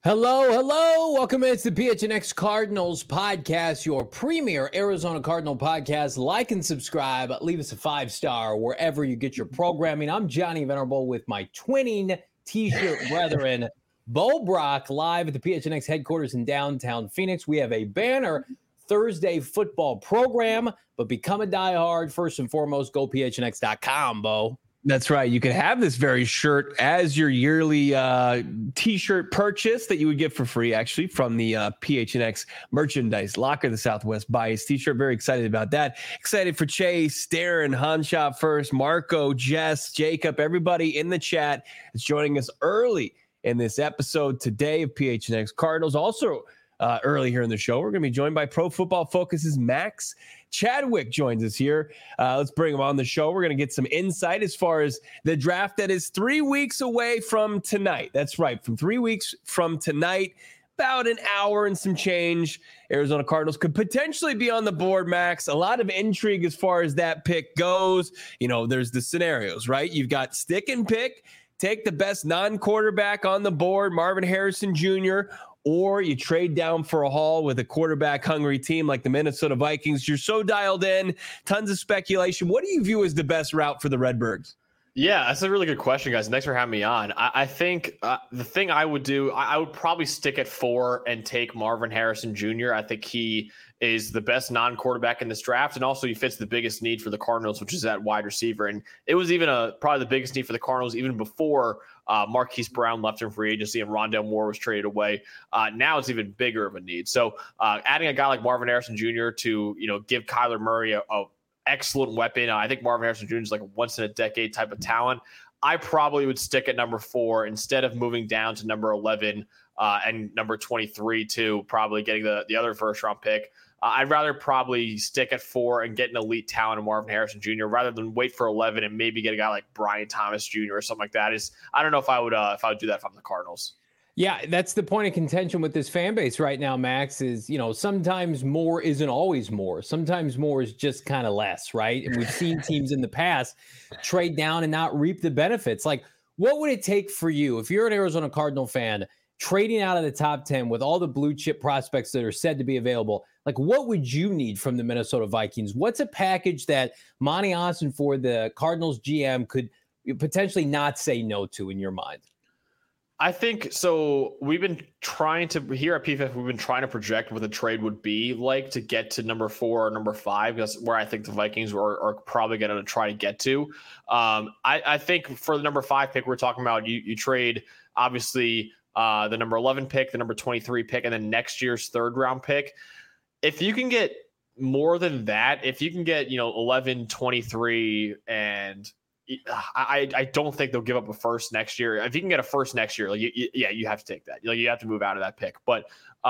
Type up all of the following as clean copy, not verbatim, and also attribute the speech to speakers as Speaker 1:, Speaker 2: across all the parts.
Speaker 1: Hello, hello. Welcome to the PHNX Cardinals podcast, your premier Arizona Cardinal podcast. Like and subscribe. Leave us a 5-star wherever you get your programming. I'm Johnny Venerable with my twinning T-shirt brethren, Bo Brock, live at the PHNX headquarters in downtown Phoenix. We have a banner Thursday football program, but become a diehard. First and foremost, go PHNX.com, Bo.
Speaker 2: That's right. You can have this very shirt as your yearly T-shirt purchase that you would get for free, actually, from the PHNX merchandise locker, the Southwest Bias T-shirt. Very excited about that. Excited for Chase, Darren, Hanshop first, Marco, Jess, Jacob, everybody in the chat is joining us early in this episode today of PHNX Cardinals. Also, early here in the show, we're going to be joined by Pro Football Focus's Max Chadwick joins us here. Let's bring him on the show. We're going to get some insight as far as the draft that is 3 weeks away from tonight. That's right. From 3 weeks from tonight, about an hour and some change, Arizona Cardinals could potentially be on the board, Max. A lot of intrigue as far as that pick goes. You know, there's the scenarios, right? You've got stick and pick, take the best non-quarterback on the board, Marvin Harrison Jr., or you trade down for a haul with a quarterback-hungry team like the Minnesota Vikings. You're so dialed in, tons of speculation. What do you view as the best route for the Redbirds?
Speaker 3: Yeah, that's a really good question, guys. Thanks for having me on. I think the thing I would do, I would probably stick at 4 and take Marvin Harrison Jr. I think he is the best non-quarterback in this draft, and also he fits the biggest need for the Cardinals, which is that wide receiver. And it was even probably the biggest need for the Cardinals even before Marquise Brown left in free agency and Rondale Moore was traded away. Now it's even bigger of a need. So adding a guy like Marvin Harrison Jr. to give Kyler Murray a excellent weapon. I think Marvin Harrison Jr. is like a once-in-a-decade type of talent. I probably would stick at number 4 instead of moving down to number 11 and number 23 to probably getting the other first-round pick. I'd rather probably stick at 4 and get an elite talent in Marvin Harrison Jr. rather than wait for 11 and maybe get a guy like Brian Thomas Jr. or something like that. I don't know if I would do that if I'm the Cardinals.
Speaker 1: Yeah, that's the point of contention with this fan base right now, Max, is, sometimes more isn't always more. Sometimes more is just kind of less, right? And we've seen teams in the past trade down and not reap the benefits. Like, what would it take for you, if you're an Arizona Cardinal fan, trading out of the top 10 with all the blue chip prospects that are said to be available? Like, what would you need from the Minnesota Vikings? What's a package that Monty Ossenfort, the Cardinals GM, could potentially not say no to in your mind?
Speaker 3: I think so. We've been trying to, here at PFF, we've been trying to project what the trade would be like to get to number 4 or number 5. That's where I think the Vikings are probably going to try to get to. I think for the number 5 pick, we're talking about you trade, obviously, the number 11 pick, the number 23 pick, and then next year's 3rd round pick. If you can get more than that, if you can get, 11, 23, and I don't think they'll give up a first next year. If you can get a first next year, you have to take that. You have to move out of that pick. But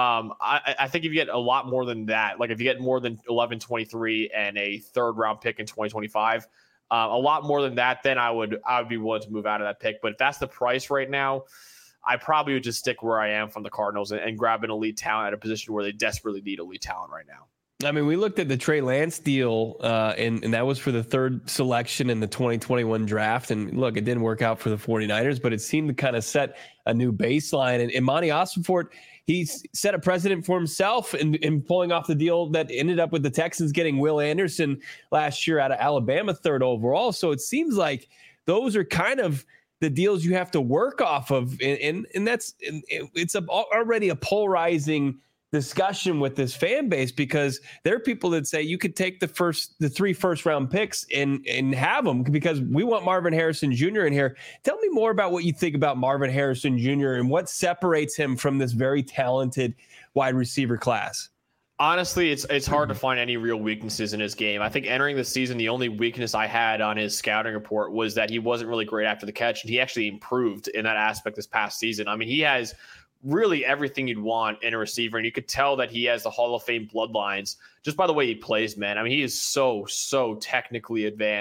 Speaker 3: I think if you get a lot more than that, like if you get more than 11, 23 and a 3rd round pick in 2025, a lot more than that, then I would be willing to move out of that pick. But if that's the price right now, I probably would just stick where I am from the Cardinals and grab an elite talent at a position where they desperately need elite talent right now.
Speaker 2: I mean, we looked at the Trey Lance deal, and that was for the 3rd selection in the 2021 draft. And look, it didn't work out for the 49ers, but it seemed to kind of set a new baseline. And Monty Ossenfort, he's set a precedent for himself in pulling off the deal that ended up with the Texans getting Will Anderson last year out of Alabama, 3rd overall. So it seems like those are kind of the deals you have to work off of. And it's already a polarizing discussion with this fan base, because there are people that say you could take the 3 first-round picks and have them because we want Marvin Harrison Jr. in here. Tell me more about what you think about Marvin Harrison Jr. and what separates him from this very talented wide receiver class.
Speaker 3: Honestly, it's hard to find any real weaknesses in his game. I think entering the season, the only weakness I had on his scouting report was that he wasn't really great after the catch, and he actually improved in that aspect this past season. I mean, he has really everything you'd want in a receiver, and you could tell that he has the Hall of Fame bloodlines just by the way he plays, man. I mean, he is so technically advanced.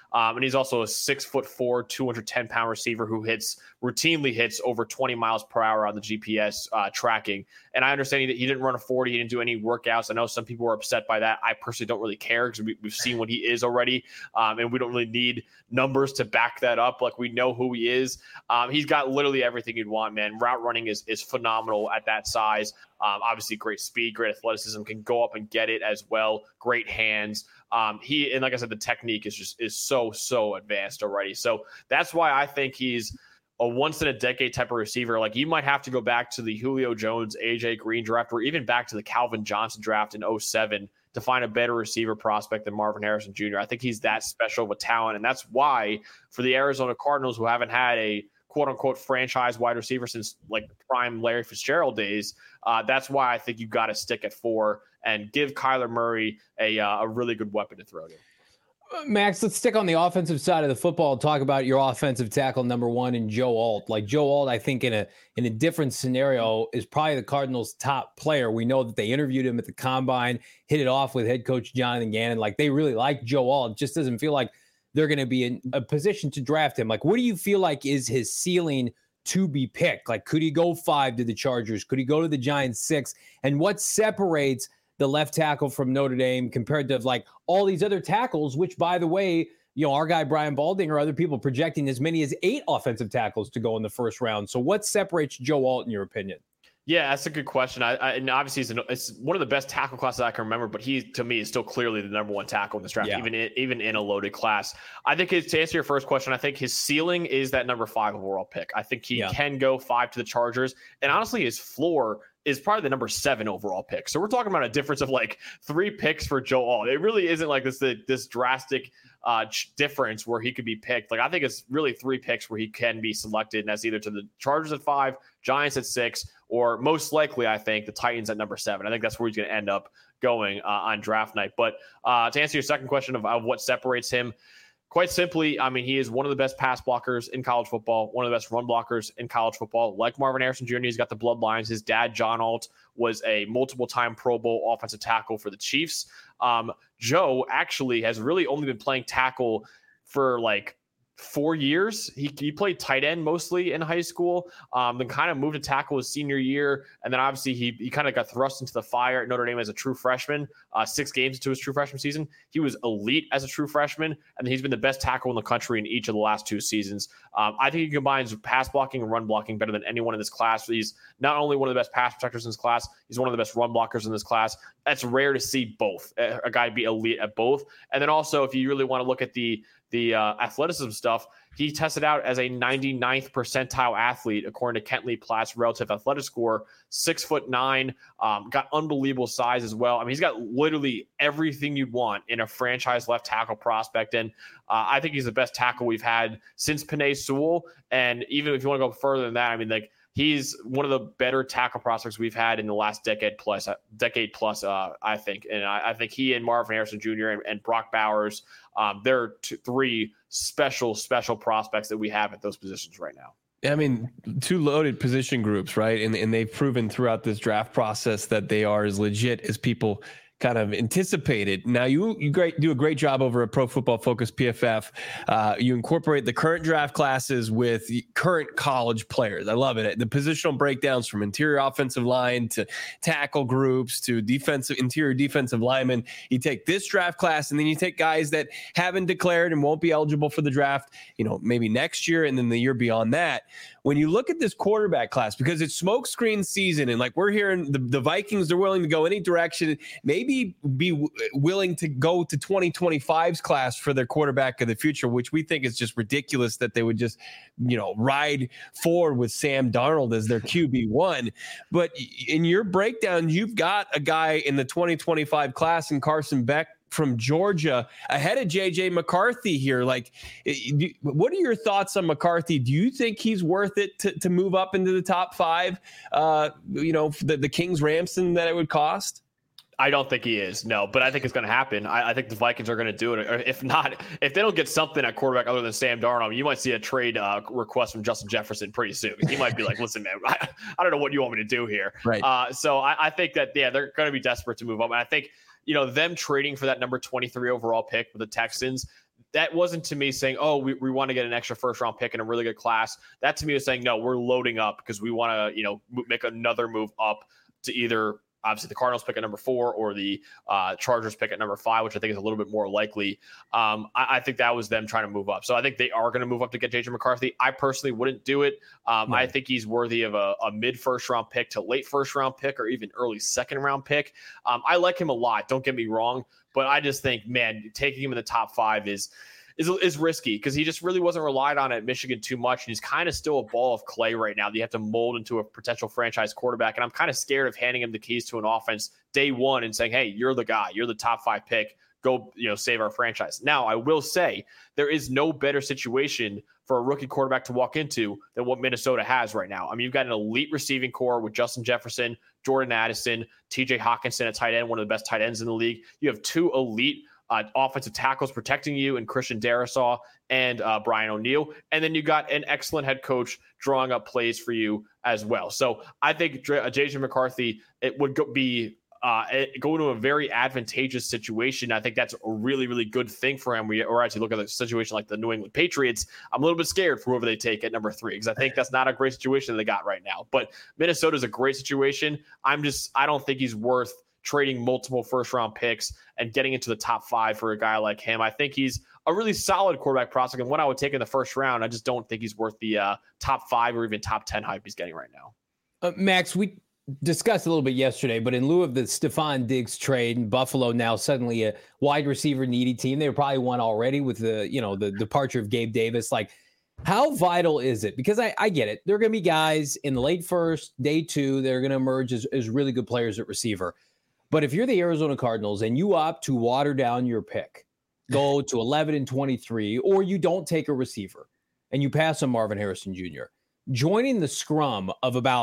Speaker 3: And he's also a 6'4", 210-pound receiver who routinely hits over 20 miles per hour on the GPS tracking. And I understand he didn't run a 40. He didn't do any workouts. I know some people were upset by that. I personally don't really care because we've seen what he is already. And we don't really need numbers to back that up. Like, we know who he is. He's got literally everything you'd want, man. Route running is phenomenal at that size. Obviously great speed, great athleticism, can go up and get it as well. Great hands. And like I said, the technique is so advanced already. So that's why I think he's a once in a decade type of receiver. Like, you might have to go back to the Julio Jones, AJ Green draft, or even back to the Calvin Johnson draft in 2007 to find a better receiver prospect than Marvin Harrison Jr. I think he's that special of a talent. And that's why for the Arizona Cardinals, who haven't had a quote unquote franchise wide receiver since like prime Larry Fitzgerald days, that's why I think you got to stick at 4 and give Kyler Murray a really good weapon to throw to.
Speaker 1: Max, let's stick on the offensive side of the football and talk about your offensive tackle number 1 in Joe Alt. Like, Joe Alt, I think in a different scenario is probably the Cardinals' top player. We know that they interviewed him at the Combine, hit it off with head coach Jonathan Gannon. Like, they really like Joe Alt. It just doesn't feel like they're going to be in a position to draft him. Like, what do you feel like is his ceiling to be picked? Like, could he go 5 to the Chargers? Could he go to the Giants 6? And what separates the left tackle from Notre Dame compared to like all these other tackles, which, by the way, you know, our guy Brian Balding or other people projecting as many as 8 offensive tackles to go in the first round. So what separates Joe Alt in your opinion?
Speaker 3: Yeah, that's a good question. And obviously it's one of the best tackle classes I can remember, but he, to me, is still clearly the number 1 tackle in this draft, even in a loaded class. I think to answer your first question, I think his ceiling is that number 5 overall pick. I think he can go 5 to the Chargers. And honestly, his floor is probably the number 7 overall pick. So we're talking about a difference of like 3 picks for Joe Alt. It really isn't like this drastic difference where he could be picked. Like, I think it's really 3 picks where he can be selected, and that's either to the Chargers at 5, Giants at 6, or most likely, I think, the Titans at number 7. I think that's where he's going to end up going on draft night. But to answer your second question of what separates him, quite simply, I mean, he is one of the best pass blockers in college football, one of the best run blockers in college football. Like Marvin Harrison Jr., he's got the bloodlines. His dad, John Alt, was a multiple-time Pro Bowl offensive tackle for the Chiefs. Joe actually has really only been playing tackle for like 4 years. He played tight end mostly in high school, then kind of moved to tackle his senior year. And then obviously he kind of got thrust into the fire at Notre Dame as a true freshman, 6 games into his true freshman season. He was elite as a true freshman, and he's been the best tackle in the country in each of the last 2 seasons. I think he combines pass blocking and run blocking better than anyone in this class. He's not only one of the best pass protectors in this class, he's one of the best run blockers in this class. That's rare to see both, a guy be elite at both. And then also, if you really want to look at the athleticism stuff, he tested out as a 99th percentile athlete according to Kent Lee Platt's relative athletic score. 6'9", got unbelievable size as well. I mean, he's got literally everything you'd want in a franchise left tackle prospect, and I think he's the best tackle we've had since Penei Sewell. And even if you want to go further than that, I mean, like, he's one of the better tackle prospects we've had in the last decade plus, I think. And I think he and Marvin Harrison Jr. and Brock Bowers, they're 3 special prospects that we have at those positions right now.
Speaker 2: I mean, 2 loaded position groups, right? And they've proven throughout this draft process that they are as legit as people kind of anticipated. Now you do a great job over at Pro Football Focus PFF. You incorporate the current draft classes with current college players. I love it. The positional breakdowns from interior offensive line to tackle groups to interior defensive linemen. You take this draft class and then you take guys that haven't declared and won't be eligible for the draft, maybe next year and then the year beyond that. When you look at this quarterback class, because it's smokescreen season, and like we're hearing the Vikings, they're willing to go any direction, maybe be willing to go to 2025's class for their quarterback of the future, which we think is just ridiculous that they would just, ride forward with Sam Darnold as their QB1. But in your breakdown, you've got a guy in the 2025 class in Carson Beck from Georgia ahead of JJ McCarthy here. Like, what are your thoughts on McCarthy? Do you think he's worth it to move up into the top 5, the Kings Ramson that it would cost?
Speaker 3: I don't think he is, no, but I think it's going to happen. I think the Vikings are going to do it. Or if not, if they don't get something at quarterback other than Sam Darnold, you might see a trade request from Justin Jefferson pretty soon. He might be like, listen, man, I don't know what you want me to do here.
Speaker 2: Right.
Speaker 3: So I think that, they're going to be desperate to move up. And I think, them trading for that number 23 overall pick with the Texans, that wasn't to me saying, oh, we want to get an extra first round pick in a really good class. That to me was saying, no, we're loading up because we want to, make another move up to either obviously the Cardinals pick at number 4 or the Chargers pick at number 5, which I think is a little bit more likely. I think that was them trying to move up. So I think they are going to move up to get JJ McCarthy. I personally wouldn't do it. No. I think he's worthy of a mid first round pick to late first round pick or even early second round pick. I like him a lot. Don't get me wrong. But I just think, man, taking him in the top 5 is risky because he just really wasn't relied on at Michigan too much. And he's kind of still a ball of clay right now that you have to mold into a potential franchise quarterback. And I'm kind of scared of handing him the keys to an offense day one and saying, hey, you're the guy, you're the top 5 pick. Go, save our franchise. Now, I will say there is no better situation for a rookie quarterback to walk into than what Minnesota has right now. I mean, you've got an elite receiving core with Justin Jefferson, Jordan Addison, TJ Hawkinson at tight end, one of the best tight ends in the league. You have 2 elite offensive tackles protecting you in Christian Darrisaw and Brian O'Neill. And then you got an excellent head coach drawing up plays for you as well. So I think JJ McCarthy, it would be go to a very advantageous situation. I think that's a really, really good thing for him. Or as you look at a situation like the New England Patriots, I'm a little bit scared for whoever they take at number 3 because I think that's not a great situation that they got right now. But Minnesota's a great situation. I don't think he's worth trading multiple first round picks and getting into the top 5 for a guy like him. I think he's a really solid quarterback prospect and one I would take in the first round. I just don't think he's worth the top 5 or even top 10 hype he's getting right now.
Speaker 1: Max, we discussed a little bit yesterday, but in lieu of the Stephon Diggs trade, Buffalo now suddenly a wide receiver needy team. They were probably one already with the departure of Gabe Davis. Like, how vital is it? Because I get it. There are going to be guys in the late first, day 2, that are going to emerge as really good players at receiver. But if you're the Arizona Cardinals and you opt to water down your pick, go to 11 and 23, or you don't take a receiver and you pass on Marvin Harrison Jr., joining the scrum of about,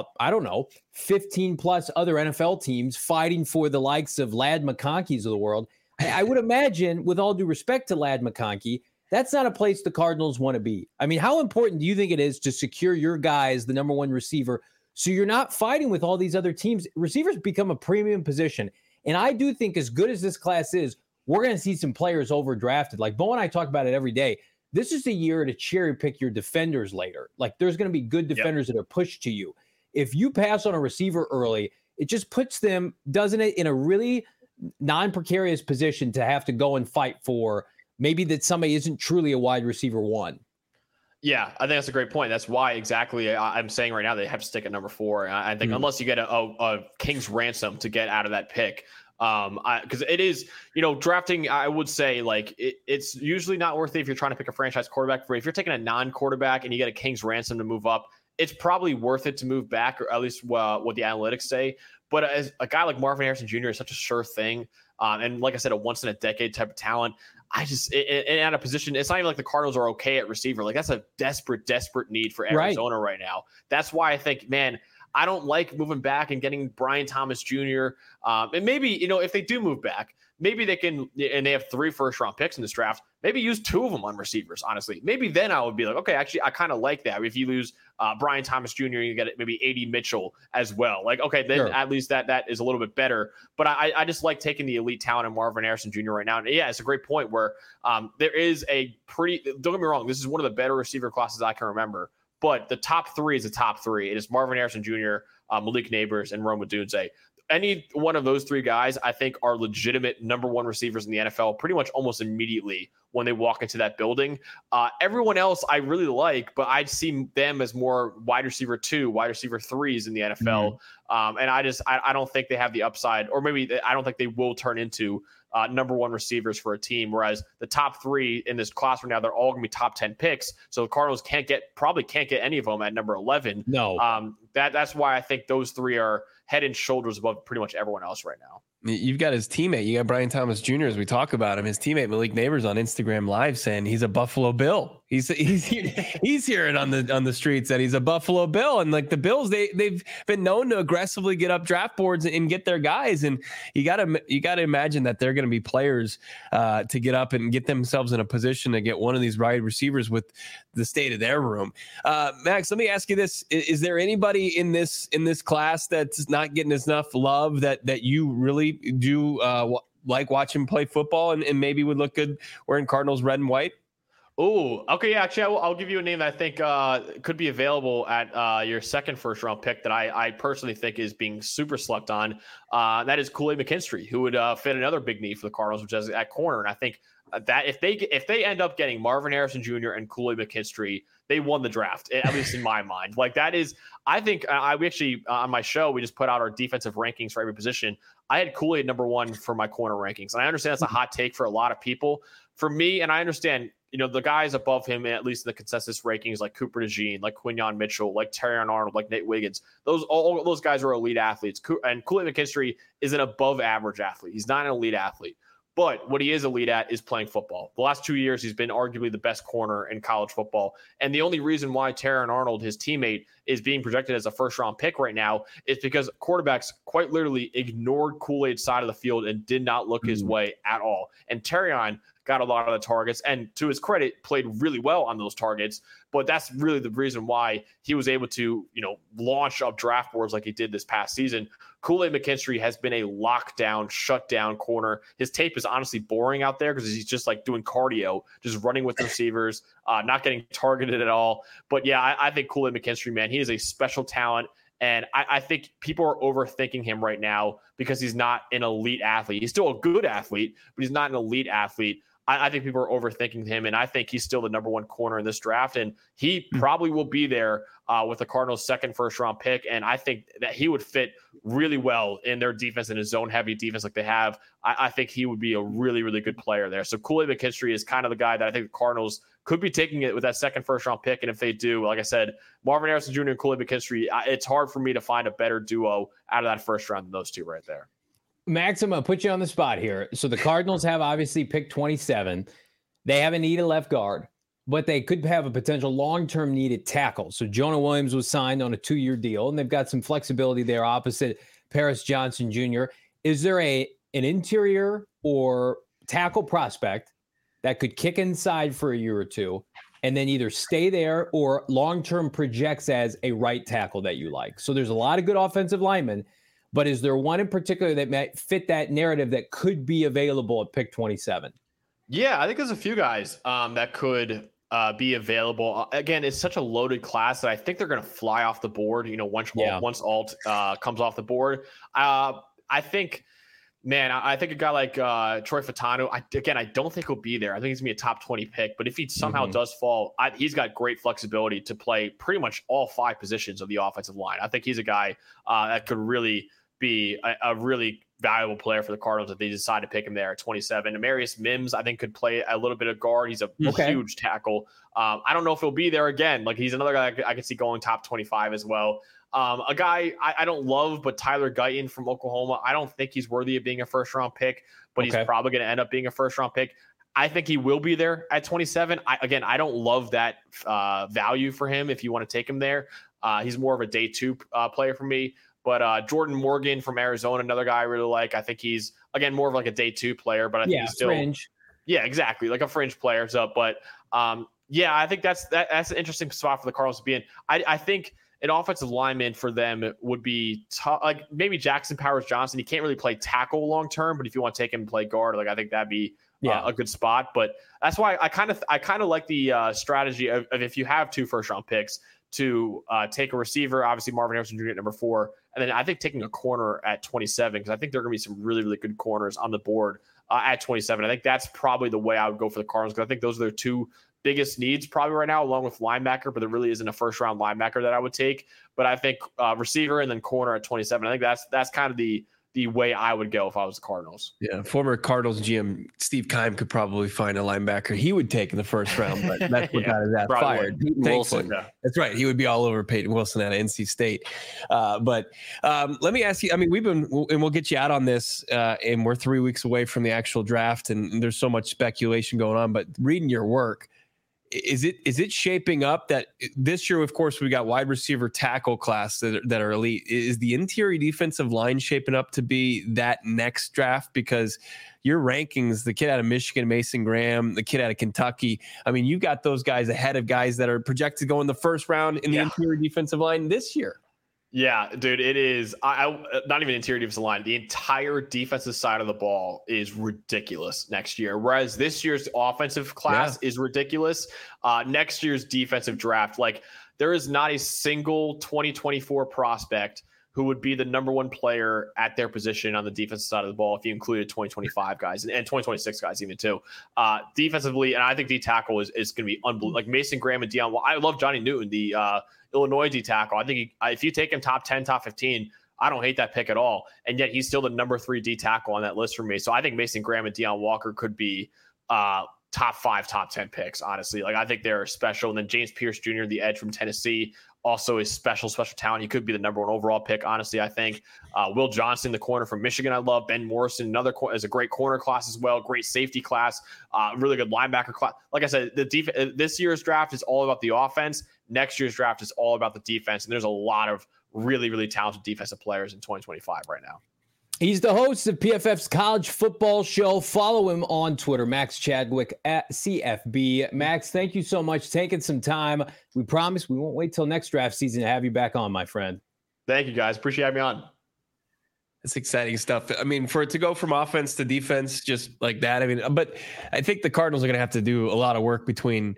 Speaker 1: 15 plus other NFL teams fighting for the likes of Ladd McConkey's of the world, I would imagine, with all due respect to Ladd McConkey, that's not a place the Cardinals want to be. I mean, how important do you think it is to secure your guy as the number 1 receiver so you're not fighting with all these other teams? Receivers become a premium position. And I do think as good as this class is, we're going to see some players overdrafted. Like Bo and I talk about it every day. This is the year to cherry pick your defenders later. Like there's going to be good defenders that are pushed to you. If you pass on a receiver early, it just puts them, doesn't it, in a really non-precarious position to have to go and fight for maybe that somebody isn't truly a wide receiver 1.
Speaker 3: Yeah, I think that's a great point. That's why exactly I'm saying right now they have to stick at number 4. I think unless you get a king's ransom to get out of that pick, because it is, drafting, I would say like it's usually not worth it if you're trying to pick a franchise quarterback. If you're taking a non-quarterback and you get a king's ransom to move up, it's probably worth it to move back, or at least what the analytics say. But as a guy like Marvin Harrison Jr. is such a sure thing. And like I said, a once in a decade type of talent. I just, and at a position, it's not even like the Cardinals are okay at receiver. Like that's a desperate need for Arizona right now. That's why I think, man, I don't like moving back and getting Brian Thomas Jr. And maybe, if they do move back, maybe they can, and they have 3 first round picks in this draft, maybe use 2 of them on receivers, honestly. Maybe then I would be like, okay, actually, I kind of like that. If you lose Brian Thomas Jr., you get maybe A.D. Mitchell as well. Like, okay, then sure, at least that is a little bit better. But I just like taking the elite talent of Marvin Harrison Jr. right now. And yeah, it's a great point where there is a pretty, don't get me wrong, this is one of the better receiver classes I can remember. But the top 3 is the top 3. It is Marvin Harrison Jr., Malik Nabers, and Rome Odunze. Any one of those 3 guys, I think, are legitimate number 1 receivers in the NFL pretty much almost immediately when they walk into that building. Everyone else I really like, but I'd see them as more wide receiver 2, wide receiver 3s in the NFL. And I don't think they have the upside, or maybe I don't think they will turn into number 1 receivers for a team. Whereas the top 3 in this class right now, they're all going to be top 10 picks. So the Cardinals probably can't get any of them at number 11.
Speaker 1: No.
Speaker 3: That's why I think those 3 are head and shoulders above pretty much everyone else right now.
Speaker 2: You've got his teammate. You got Brian Thomas Jr. as we talk about him. His teammate Malik Nabers on Instagram Live saying he's a Buffalo Bill. He's hearing on the streets that he's a Buffalo Bill, and like the Bills, they've been known to aggressively get up draft boards and get their guys. And you gotta imagine that they're going to be players to get up and get themselves in a position to get one of these wide receivers with the state of their room. Max, let me ask you this: is there anybody in this class that's not getting enough love that you really do like watching him play football and maybe would look good wearing Cardinals red and white?
Speaker 3: Oh, okay. Yeah, actually, I'll give you a name that I think could be available at your second first round pick that I personally think is being super slept on. That is Kool-Aid McKinstry, who would fit another big need for the Cardinals, which is at corner. And I think that if they end up getting Marvin Harrison Jr. and Kool-Aid McKinstry, they won the draft, at least in my mind. Like that is, I think we actually on my show we just put out our defensive rankings for every position. I had Kool-Aid number 1 for my corner rankings, and I understand that's a hot take for a lot of people. For me, and I understand, the guys above him, at least in the consensus rankings, like Cooper DeJean, like Quinyon Mitchell, like Terrion Arnold, like Nate Wiggins, all those guys are elite athletes. And Kool-Aid McKinstry is an above average athlete. He's not an elite athlete. But what he is elite at is playing football. The last 2 years, he's been arguably the best corner in college football. And the only reason why Terrion Arnold, his teammate, is being projected as a first-round pick right now is because quarterbacks quite literally ignored Kool-Aid's side of the field and did not look his way at all. And Terrion got a lot of the targets, and to his credit, played really well on those targets. But that's really the reason why he was able to, launch up draft boards like he did this past season. Kool-Aid McKinstry has been a lockdown, shutdown corner. His tape is honestly boring out there because he's just like doing cardio, just running with receivers, not getting targeted at all. But yeah, I think Kool-Aid McKinstry, man, he is a special talent. And I think people are overthinking him right now because he's not an elite athlete. He's still a good athlete, but he's not an elite athlete. I think people are overthinking him, and I think he's still the number 1 corner in this draft, and he probably will be there with the Cardinals' second first-round pick, and I think that he would fit really well in their defense, in a zone-heavy defense like they have. I think he would be a really, really good player there. So Kool-Aid McKinstry is kind of the guy that I think the Cardinals could be taking it with that second first-round pick, and if they do, like I said, Marvin Harrison Jr. and Kool-Aid McKinstry, it's hard for me to find a better duo out of that first round than those two right there.
Speaker 1: Max, I'm going to put you on the spot here. So the Cardinals have obviously picked 27. They have a need at left guard, but they could have a potential long-term need at tackle. So Jonah Williams was signed on a 2-year deal, and they've got some flexibility there opposite Paris Johnson Jr. Is there an interior or tackle prospect that could kick inside for a year or two and then either stay there or long-term projects as a right tackle that you like? So there's a lot of good offensive linemen. But is there one in particular that might fit that narrative that could be available at pick 27?
Speaker 3: Yeah, I think there's a few guys that could be available. Again, it's such a loaded class that I think they're going to fly off the board. Once Alt comes off the board, I think a guy like Troy Fautanu. I don't think he'll be there. I think he's gonna be a top 20 pick. But if he somehow does fall, he's got great flexibility to play pretty much all 5 positions of the offensive line. I think he's a guy that could really be a really valuable player for the Cardinals if they decide to pick him there at 27. Amarius Mims, I think, could play a little bit of guard. He's a huge tackle. I don't know if he'll be there again. Like, he's another guy I could see going top 25 as well. A guy I don't love, but Tyler Guyton from Oklahoma. I don't think he's worthy of being a first-round pick, but he's probably going to end up being a first-round pick. I think he will be there at 27. I don't love that value for him if you want to take him there. He's more of a day 2 player for me. But Jordan Morgan from Arizona, another guy I really like. I think he's, again, more of like a day 2 player, but I think he's still
Speaker 1: fringe.
Speaker 3: Yeah, exactly, like a fringe player. So, but I think that's an interesting spot for the Cardinals to be in. I think an offensive lineman for them would be like maybe Jackson Powers Johnson. He can't really play tackle long term, but if you want to take him and play guard, like I think that'd be a good spot. But that's why I kind of like the strategy of if you have 2 first-round picks to take a receiver, obviously Marvin Harrison Jr. at number 4, and then I think taking a corner at 27, because I think there are going to be some really, really good corners on the board at 27. I think that's probably the way I would go for the Cardinals, because I think those are their 2 biggest needs probably right now, along with linebacker, but there really isn't a first-round linebacker that I would take. But I think receiver and then corner at 27. I think that's kind of the way I would go if I was the Cardinals.
Speaker 2: Yeah, former Cardinals GM Steve Keim could probably find a linebacker he would take in the first round, but that's what got his ass fired.
Speaker 4: Wilson.
Speaker 2: Yeah. That's right. He would be all over Peyton Wilson out of NC State. But let me ask you, I mean, we'll get you out on this, and we're 3 weeks away from the actual draft, and there's so much speculation going on, but reading your work, is it shaping up that this year, of course, we got wide receiver tackle class that are elite. Is the interior defensive line shaping up to be that next draft? Because your rankings, the kid out of Michigan, Mason Graham, the kid out of Kentucky, I mean, you got those guys ahead of guys that are projected to go in the first round in the interior defensive line this year.
Speaker 3: Yeah, dude, it is. I not even interior defensive line. The entire defensive side of the ball is ridiculous next year. Whereas this year's offensive class is ridiculous. Next year's defensive draft, like there is not a single 2024 prospect who would be the number one player at their position on the defensive side of the ball if you included 2025 guys and 2026 guys even too. Defensively, and I think D tackle is going to be unbelievable. Like Mason Graham and Deion. Well, I love Johnny Newton, the Illinois D tackle. I think if you take him top 10, top 15, I don't hate that pick at all. And yet he's still the number 3 D tackle on that list for me. So I think Mason Graham and Deion Walker could be top 5, top 10 picks, honestly. Like I think they're special. And then James Pierce Jr., the edge from Tennessee, also is special talent. He could be the number 1 overall pick, honestly, I think. Will Johnson, the corner from Michigan, I love. Ben Morrison, another is a great corner class as well. Great safety class. Really good linebacker class. Like I said, this year's draft is all about the offense. Next year's draft is all about the defense. And there's a lot of really, really talented defensive players in 2025 right now.
Speaker 1: He's the host of PFF's College Football Show. Follow him on Twitter, Max Chadwick at CFB. Max, thank you so much for taking some time. We promise we won't wait till next draft season to have you back on, my friend.
Speaker 3: Thank you, guys. Appreciate having me on.
Speaker 2: It's exciting stuff. I mean, for it to go from offense to defense just like that, I mean, but I think the Cardinals are going to have to do a lot of work between,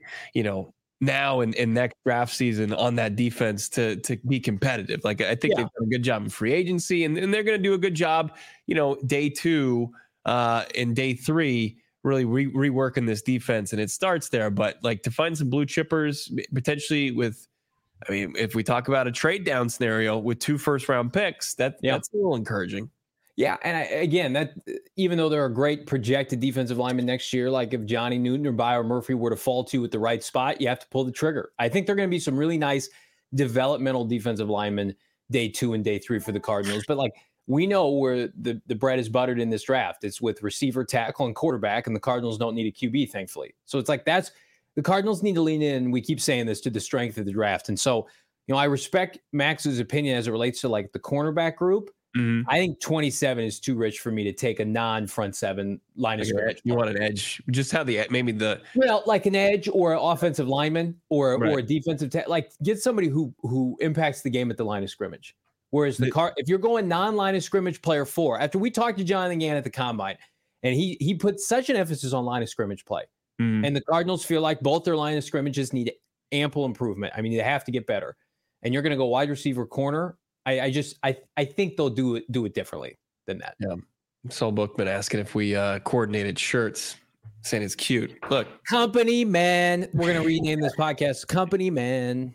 Speaker 2: now and next draft season on that defense to be competitive. Like I think they've done a good job in free agency and they're going to do a good job, day 2 and day 3, really reworking this defense. And it starts there, but like to find some blue chippers potentially if we talk about a trade down scenario with 2 first-round picks, that's a little encouraging.
Speaker 1: Yeah, and that even though there are great projected defensive linemen next year, like if Johnny Newton or Byron Murphy were to fall to at the right spot, you have to pull the trigger. I think there are going to be some really nice developmental defensive linemen day 2 and day 3 for the Cardinals. But like we know where the bread is buttered in this draft. It's with receiver, tackle, and quarterback, and the Cardinals don't need a QB, thankfully. So it's like the Cardinals need to lean in. We keep saying this to the strength of the draft. And so, I respect Max's opinion as it relates to like the cornerback group. Mm-hmm. I think 27 is too rich for me to take a non-front 7 line of scrimmage.
Speaker 2: You want an edge? Just how
Speaker 1: like an edge or an offensive lineman or a defensive like get somebody who impacts the game at the line of scrimmage. Whereas if you're going non-line of scrimmage player 4, after we talked to Jonathan Gann at the combine, and he put such an emphasis on line of scrimmage play, and the Cardinals feel like both their line of scrimmages need ample improvement. I mean, they have to get better. And you're going to go wide receiver, corner. I think they'll do it differently than that.
Speaker 2: Yeah. Saul Bookman asking if we coordinated shirts, saying it's cute. Look,
Speaker 1: Company Man. We're gonna rename this podcast Company Man.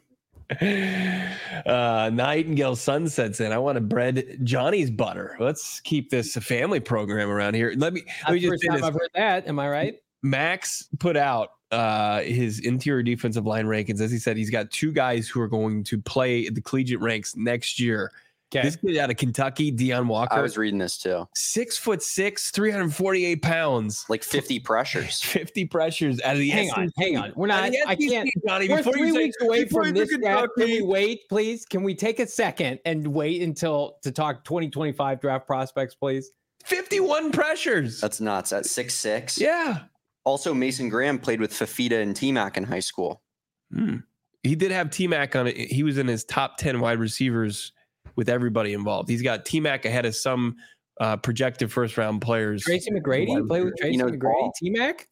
Speaker 2: Nightingale Sunset saying, I want to bread Johnny's butter. Let's keep this a family program around here. Let me just say this.
Speaker 1: I've heard that. Am I right?
Speaker 2: Max put out his interior defensive line rankings. As he said, he's got 2 guys who are going to play at the collegiate ranks next year. Okay. This kid out of Kentucky, Deion Walker.
Speaker 4: I was reading this too.
Speaker 2: 6'6", 348 pounds.
Speaker 4: Like 50 pressures.
Speaker 2: 50 pressures out of the
Speaker 1: Hang on. We're not. I can't. Johnny, we're 3 weeks away from this draft. Can we wait, please? Can we take a second and wait to talk 2025 draft prospects, please?
Speaker 2: 51 pressures.
Speaker 4: That's nuts. At 6'6".
Speaker 2: Yeah.
Speaker 4: Also, Mason Graham played with Fafita and T-Mac in high school.
Speaker 2: He did have T-Mac on it. He was in his top 10 wide receivers with everybody involved. He's got T-Mac ahead of some projected first-round players.
Speaker 1: Tracy McGrady? Play with Tracy McGrady? T-Mac?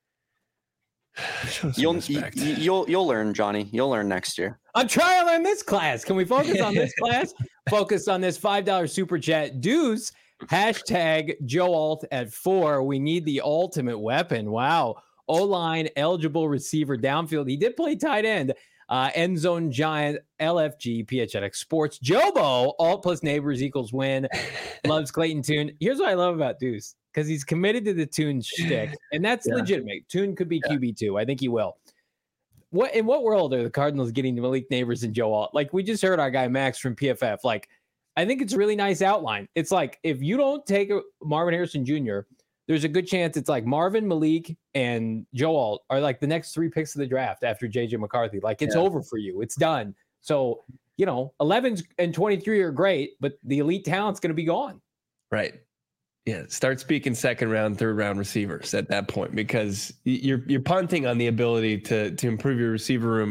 Speaker 4: You'll learn, Johnny. You'll learn next year.
Speaker 1: I'm trying to learn this class. Can we focus on this class? Focus on this $5 super chat. Deuce. Hashtag Joe Alt at 4. We need the ultimate weapon. Wow. O-line eligible receiver downfield. He did play tight end. End zone giant, LFG, PHNX Sports. Jobo, alt plus neighbors equals win. Loves Clayton Tune. Here's what I love about Deuce, because he's committed to the Tune shtick, and that's legitimate. Tune could be QB2. I think he will. In what world are the Cardinals getting Malik Neighbors and Joe Alt? Like, we just heard our guy Max from PFF. Like, I think it's a really nice outline. It's like, if you don't take Marvin Harrison Jr., there's a good chance it's like Marvin, Malik, and Joe Alt are like the next 3 picks of the draft after JJ McCarthy. Like, it's over for you. It's done. So, 11 and 23 are great, but the elite talent's going to be gone.
Speaker 2: Right. Yeah. Start speaking 2nd round, 3rd round receivers at that point, because you're punting on the ability to improve your receiver room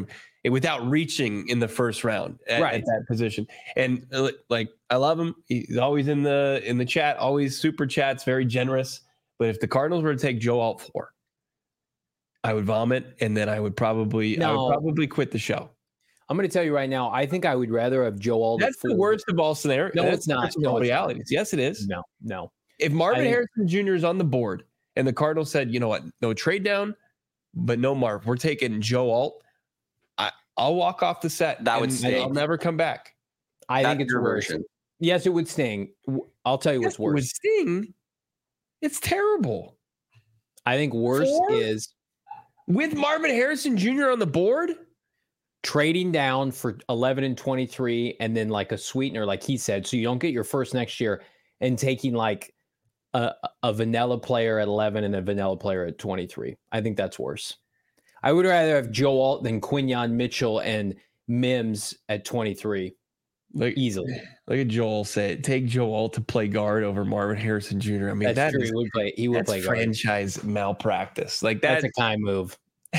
Speaker 2: without reaching in the first round at that position. And like, I love him. He's always in the chat, always super chats, very generous. But if the Cardinals were to take Joe Alt 4, I would vomit, and then I would probably quit the show.
Speaker 1: I'm going to tell you right now, I think I would rather have Joe Alt.
Speaker 2: That's the worst of all scenarios.
Speaker 1: No, it's not.
Speaker 2: No, realities. Yes, it is.
Speaker 1: No.
Speaker 2: If Marvin Harrison Jr. is on the board and the Cardinals said, you know what, no trade down, but no Marv, we're taking Joe Alt, I'll walk off the set.
Speaker 4: That would sting.
Speaker 2: I'll never come back.
Speaker 1: I think it's worse. Yes, it would sting. I'll tell you what's worse.
Speaker 2: It would sting. It's terrible.
Speaker 1: I think worse is
Speaker 2: with Marvin Harrison Jr. on the board,
Speaker 1: trading down for 11 and 23, and then like a sweetener, like he said, so you don't get your first next year, and taking like a vanilla player at 11 and a vanilla player at 23. I think that's worse. I would rather have Joe Alt than Quinyon Mitchell and Mims at 23. Easily.
Speaker 2: Look at Joel say it. Take Joe Alt to play guard over Marvin Harrison Jr. I mean,
Speaker 1: that's true. He would play guard.
Speaker 2: Franchise malpractice. Like
Speaker 1: that's a kind move.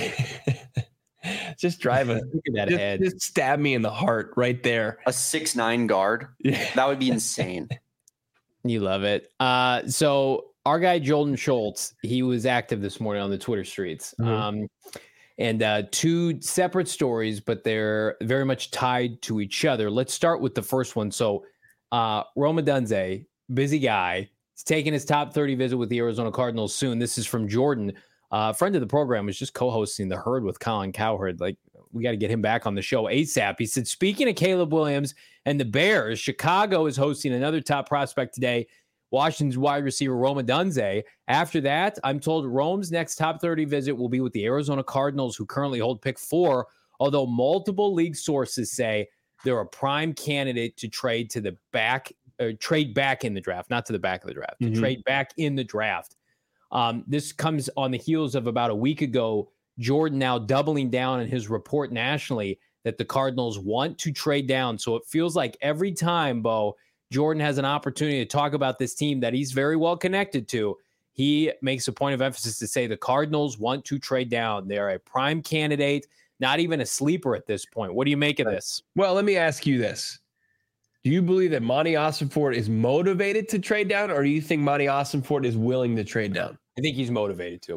Speaker 2: Just drive
Speaker 1: Look at that head.
Speaker 2: Just stab me in the heart right there.
Speaker 4: A 6'9" guard. Yeah. That would be insane.
Speaker 1: You love it. So our guy Jordan Schultz, he was active this morning on the Twitter streets. Mm-hmm. And two separate stories, but they're very much tied to each other. Let's start with the first one. So Rome Odunze, busy guy, he's taking his top 30 visit with the Arizona Cardinals soon. This is from Jordan. Friend of the program, was just co-hosting The Herd with Colin Cowherd. Like, we got to get him back on the show ASAP. He said, speaking of Caleb Williams and the Bears, Chicago is hosting another top prospect today, Washington's wide receiver Rome Odunze. After that, I'm told Rome's next top 30 visit will be with the Arizona Cardinals, who currently hold pick 4, although multiple league sources say they're a prime candidate to trade to the back, or trade back in the draft, not to the back of the draft, to trade back in the draft. This comes on the heels of about a week ago, Jordan now doubling down in his report nationally that the Cardinals want to trade down. So it feels like every time, Bo, Jordan has an opportunity to talk about this team that he's very well connected to, he makes a point of emphasis to say the Cardinals want to trade down. They're a prime candidate, not even a sleeper at this point. What do you make of this?
Speaker 2: Well, let me ask you this. Do you believe that Monty Ossenfort is motivated to trade down, or do you think Monty Ossenfort is willing to trade down?
Speaker 1: I think he's motivated to.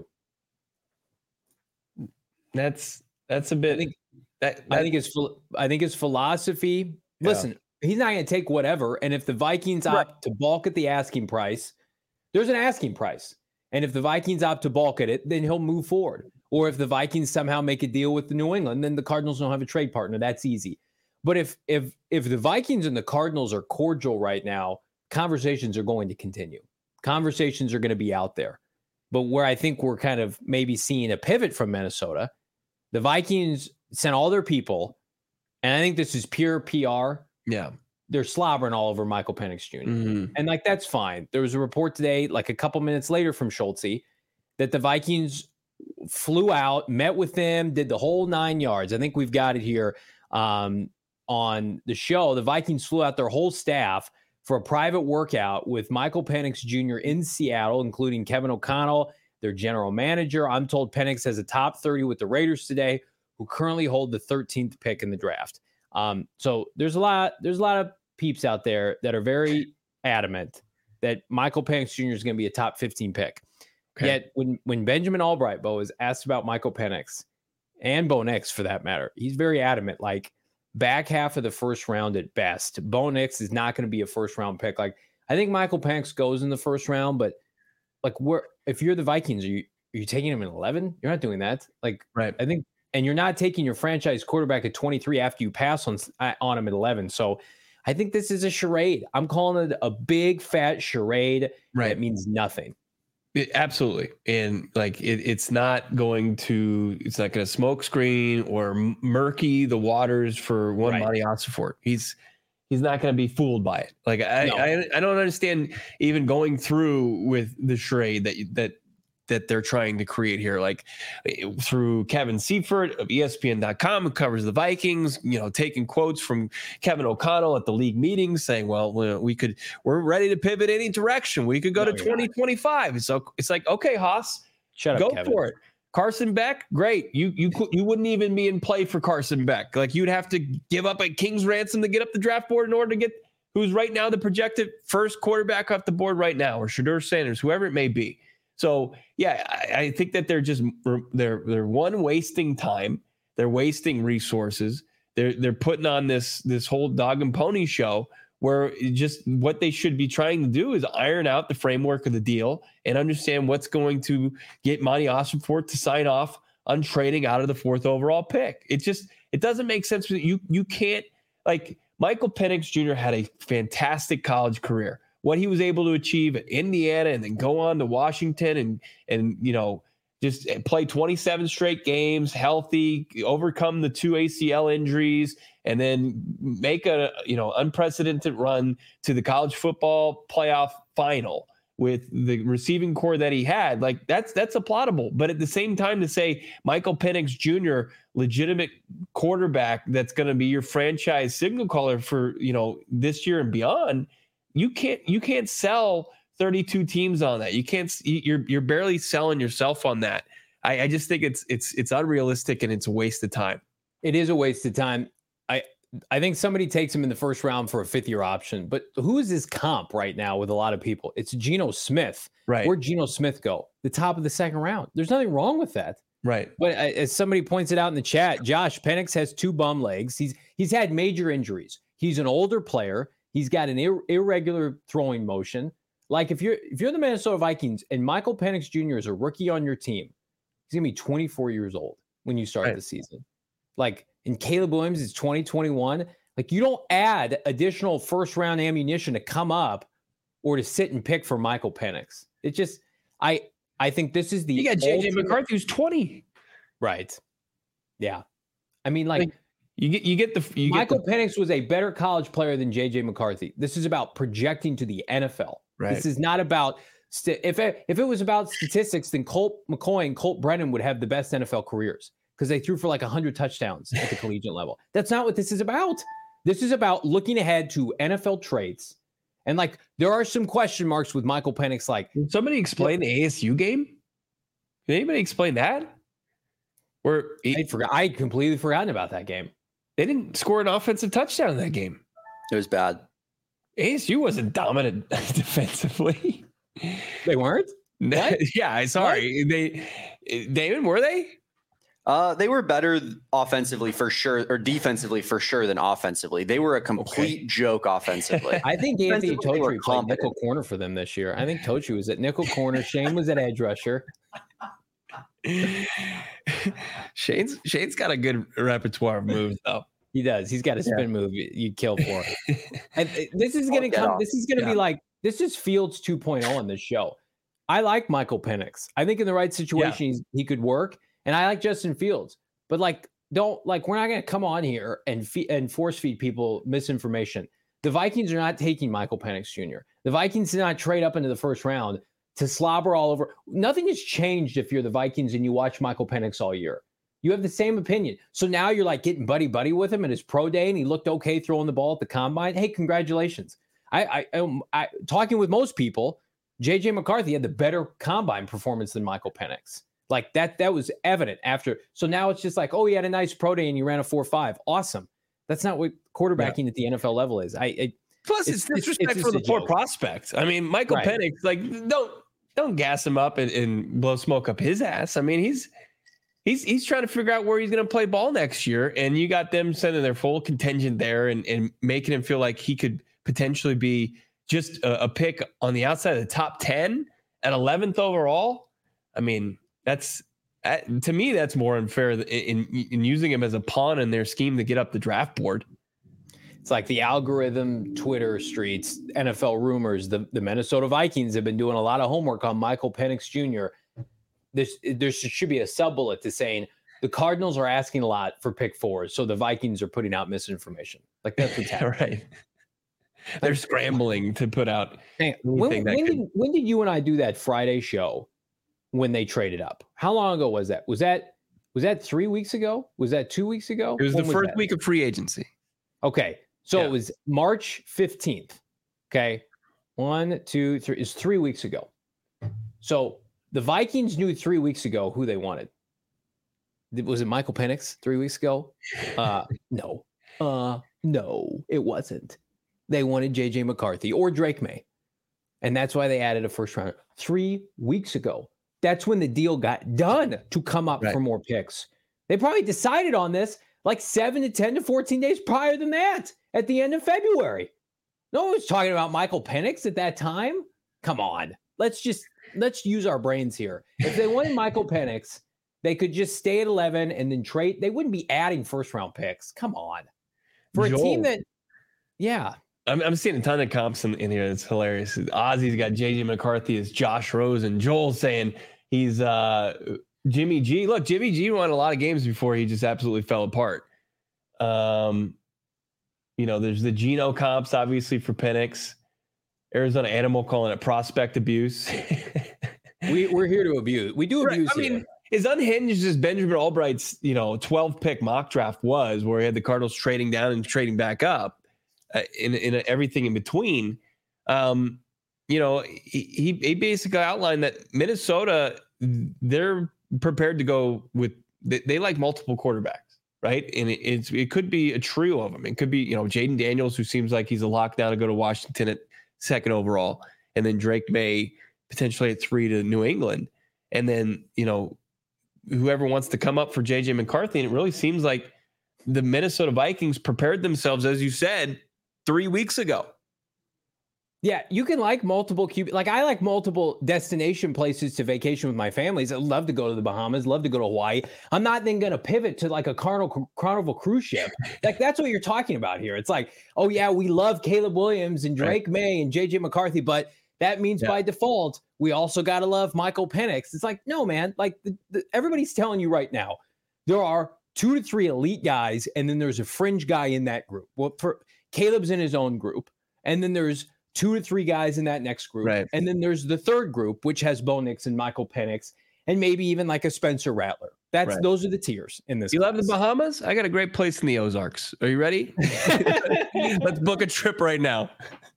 Speaker 2: That's a bit.
Speaker 1: I think his philosophy. Yeah. Listen, he's not going to take whatever. And if the Vikings opt to balk at the asking price, there's an asking price. And if the Vikings opt to balk at it, then he'll move forward. Or if the Vikings somehow make a deal with the New England, then the Cardinals don't have a trade partner. That's easy. But if the Vikings and the Cardinals are cordial right now, conversations are going to continue. Conversations are going to be out there. But where I think we're kind of maybe seeing a pivot from Minnesota, the Vikings sent all their people, and I think this is pure PR.
Speaker 2: Yeah.
Speaker 1: They're slobbering all over Michael Penix Jr. Mm-hmm. And like, that's fine. There was a report today, like a couple minutes later from Schultze, that the Vikings flew out, met with them, did the whole 9 yards. I think we've got it here on the show. The Vikings flew out their whole staff for a private workout with Michael Penix Jr. in Seattle, including Kevin O'Connell, their general manager. I'm told Penix has a top 30 with the Raiders today, who currently hold the 13th pick in the draft. So there's a lot of peeps out there that are very adamant that Michael Penix Jr. is going to be a top 15 pick. Okay. Yet when Benjamin Albright, Bo, is asked about Michael Penix, and Bo Nix for that matter, he's very adamant, like back half of the first round at best. Bo Nix is not going to be a first round pick. Like, I think Michael Penix goes in the first round, but like, if you're the Vikings, are you taking him in 11? You're not doing that. Like,
Speaker 2: right.
Speaker 1: I think, and you're not taking your franchise quarterback at 23 after you pass on him at 11. So I think this is a charade. I'm calling it a big fat charade.
Speaker 2: Right.
Speaker 1: That means nothing.
Speaker 2: Absolutely. And like, it's not going to smoke screen or murky the waters for one Monty Ossenfort. He's not going to be fooled by it. Like, I don't understand even going through with the charade that they're trying to create here, like through Kevin Seifert of ESPN.com, who covers the Vikings, taking quotes from Kevin O'Connell at the league meetings saying, well, we're ready to pivot any direction. We could go to 2025. So it's like, okay, Haas,
Speaker 1: shut up,
Speaker 2: go
Speaker 1: Kevin.
Speaker 2: for it. Carson Beck, great. You wouldn't even be in play for Carson Beck. Like you'd have to give up a king's ransom to get up the draft board in order to get who's right now the projected first quarterback off the board right now, or Shedeur Sanders, whoever it may be. So yeah, I think that they're one, wasting time, they're wasting resources, they're putting on this whole dog and pony show where just what they should be trying to do is iron out the framework of the deal and understand what's going to get Monty Ossenfort to sign off on trading out of the 4th overall pick. It doesn't make sense. You can't, like, Michael Penix Jr. had a fantastic college career. What he was able to achieve at Indiana and then go on to Washington and just play 27 straight games, healthy, overcome the 2 ACL injuries, and then make a unprecedented run to the college football playoff final with the receiving core that he had. Like that's applaudable. But at the same time, to say Michael Penix Jr., legitimate quarterback that's going to be your franchise signal caller for this year and beyond, you can't sell 32 teams on that. You're barely selling yourself on that. I just think it's unrealistic and it's a waste of time.
Speaker 1: It is a waste of time. I think somebody takes him in the first round for a 5th-year option, but who is his comp right now with a lot of people? It's Geno Smith.
Speaker 2: Right.
Speaker 1: Where'd Geno Smith go? The top of the 2nd round. There's nothing wrong with that.
Speaker 2: Right.
Speaker 1: But as somebody points it out in the chat, Josh, Penix has 2 bum legs. He's had major injuries. He's an older player. He's got an irregular throwing motion. Like if you're the Minnesota Vikings and Michael Penix Jr. is a rookie on your team, he's gonna be 24 years old when you start the season. Like, and Caleb Williams is 2021. Like, you don't add additional 1st-round ammunition to come up or to sit and pick for Michael Penix. It just, I think this is the.
Speaker 2: You got JJ McCarthy who's 20.
Speaker 1: Right. Yeah. I mean, like
Speaker 2: Michael
Speaker 1: Penix was a better college player than JJ McCarthy. This is about projecting to the NFL.
Speaker 2: Right.
Speaker 1: This is not about if it was about statistics, then Colt McCoy and Colt Brennan would have the best NFL careers because they threw for like 100 touchdowns at the collegiate level. That's not what this is about. This is about looking ahead to NFL trades. And like, there are some question marks with Michael Penix. Like,
Speaker 2: can somebody explain the ASU game? Can anybody explain that?
Speaker 1: I completely forgotten about that game.
Speaker 2: They didn't score an offensive touchdown in that game.
Speaker 4: It was bad.
Speaker 2: ASU wasn't dominant defensively.
Speaker 1: They weren't?
Speaker 2: What? Yeah, sorry. What? Damon, were they?
Speaker 4: They were better offensively for sure, or defensively for sure than offensively. They were a complete joke offensively.
Speaker 1: I think Anthony Totri played nickel corner for them this year. I think Totri was at nickel corner. Shane was at edge rusher.
Speaker 2: Shane's got a good repertoire of moves, though.
Speaker 1: He does. He's got a spin move you'd kill for. And this is going to come. This is going to be like, this is Fields 2.0 on this show. I like Michael Penix. I think in the right situation, he could work. And I like Justin Fields. But we're not going to come on here and force feed people misinformation. The Vikings are not taking Michael Penix Jr. The Vikings did not trade up into the 1st round to slobber all over. Nothing has changed if you're the Vikings and you watch Michael Penix all year. You have the same opinion. So now you're like getting buddy with him at his pro day and he looked okay throwing the ball at the combine. Hey, congratulations. I talking with most people, JJ McCarthy had the better combine performance than Michael Penix. Like that was evident after. So now it's just like, oh, he had a nice pro day and he ran a 4.5. Awesome. That's not what quarterbacking at the NFL level is.
Speaker 2: Plus, it's disrespect for the poor prospect. I mean, Michael Penix, don't gas him up and blow smoke up his ass. I mean, he's trying to figure out where he's going to play ball next year, and you got them sending their full contingent there and making him feel like he could potentially be just a pick on the outside of the top 10 at 11th overall. I mean, to me, that's more unfair in using him as a pawn in their scheme to get up the draft board.
Speaker 1: It's like the algorithm, Twitter streets, NFL rumors. The Minnesota Vikings have been doing a lot of homework on Michael Penix Jr. There should be a sub-bullet to saying the Cardinals are asking a lot for pick 4s, so the Vikings are putting out misinformation. Like that's what's happening.
Speaker 2: Right. They're scrambling to put out.
Speaker 1: When did you and I do that Friday show when they traded up? How long ago was that? Was that 3 weeks ago? Was that 2 weeks ago?
Speaker 2: It was the first week of free agency.
Speaker 1: Okay. So it was March 15th. Okay. 1, 2, 3. It's 3 weeks ago. So the Vikings knew 3 weeks ago who they wanted. Was it Michael Penix 3 weeks ago? No. No, it wasn't. They wanted JJ McCarthy or Drake May. And that's why they added a first round 3 weeks ago. That's when the deal got done to come up for more picks. They probably decided on this like 7 to 10 to 14 days prior than that at the end of February. No one was talking about Michael Penix at that time. Come on. Let's use our brains here. If they wanted Michael Penix, they could just stay at 11 and then trade. They wouldn't be adding first round picks. Come on. For a team that, yeah.
Speaker 2: I'm seeing a ton of comps in here. It's hilarious. Ozzy's got JJ McCarthy as Josh Rosen. Joel's saying he's Jimmy G. Look, Jimmy G won a lot of games before he just absolutely fell apart. There's the Geno comps, obviously, for Penix. Arizona Animal calling it prospect abuse.
Speaker 1: We're here to abuse. We do abuse.
Speaker 2: I mean, as unhinged as Benjamin Albright's 12 pick mock draft was, where he had the Cardinals trading down and trading back up, in everything in between. He basically outlined that Minnesota, they're prepared to go with. They like multiple quarterbacks, right? And it could be a trio of them. It could be Jaden Daniels, who seems like he's a lockdown to go to Washington at 2nd overall, and then Drake May potentially at 3 to New England, and then whoever wants to come up for JJ McCarthy. And it really seems like the Minnesota Vikings prepared themselves, as you said, 3 weeks ago.
Speaker 1: Yeah, you can like multiple QB. Like I like multiple destination places to vacation with my families. I love to go to the Bahamas, love to go to Hawaii. I'm not then going to pivot to like a Carnival cruise ship. Like that's what you're talking about here. It's like, oh yeah, we love Caleb Williams and Drake May and JJ McCarthy, but that means by default, we also got to love Michael Penix. It's like, no, man, like everybody's telling you right now, there are 2 to 3 elite guys, and then there's a fringe guy in that group. Well, for Caleb's in his own group, and then there's 2 to 3 guys in that next group. Right. And then there's the third group, which has Bo Nix and Michael Penix, and maybe even like a Spencer Rattler. Those are the tiers in this.
Speaker 2: You love the Bahamas? I got a great place in the Ozarks. Are you ready? Let's book a trip right now.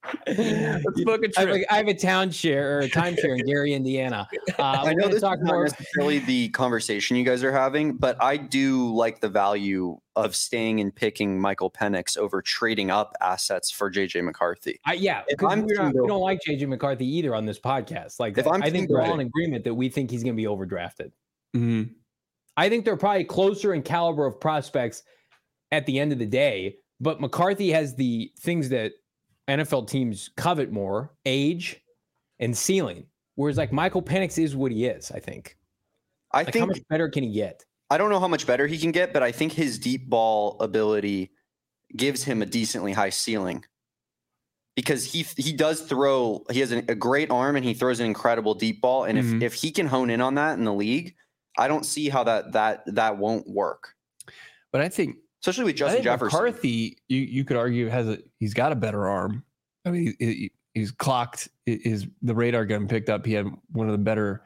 Speaker 2: Let's book a trip.
Speaker 1: I have a timeshare in Gary, Indiana.
Speaker 4: I know this is not necessarily the conversation you guys are having, but I do like the value of staying and picking Michael Penix over trading up assets for JJ McCarthy.
Speaker 1: Because we don't like JJ McCarthy either on this podcast. Like, I think we're all in agreement that we think he's going to be overdrafted.
Speaker 2: Mm-hmm.
Speaker 1: I think they're probably closer in caliber of prospects at the end of the day, but McCarthy has the things that NFL teams covet more: age and ceiling. Whereas like Michael Penix is what he is, I think.
Speaker 4: I think
Speaker 1: how much better can he get?
Speaker 4: I don't know how much better he can get, but I think his deep ball ability gives him a decently high ceiling. Because he does throw, he has a great arm and he throws an incredible deep ball. And if he can hone in on that in the league, I don't see how that won't work.
Speaker 2: But I think,
Speaker 4: especially with Justin Jefferson,
Speaker 2: McCarthy, you could argue he's got a better arm. I mean, he's clocked. The radar gun picked up. He had one of the better.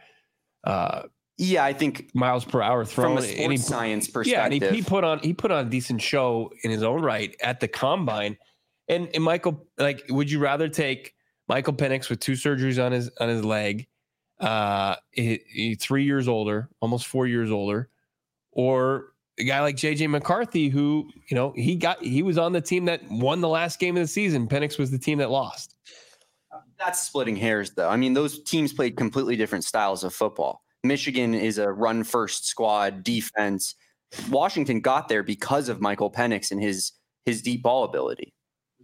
Speaker 4: I think
Speaker 2: miles per hour thrown
Speaker 4: from a sports science perspective.
Speaker 2: Yeah, and he put on a decent show in his own right at the combine. And Michael, like, would you rather take Michael Penix with 2 surgeries on his leg? He's 3 years older, almost 4 years older, or a guy like JJ McCarthy, who, he was on the team that won the last game of the season. Penix was the team that lost.
Speaker 4: That's splitting hairs, though. I mean, those teams played completely different styles of football. Michigan is a run first squad defense. Washington got there because of Michael Penix and his deep ball ability.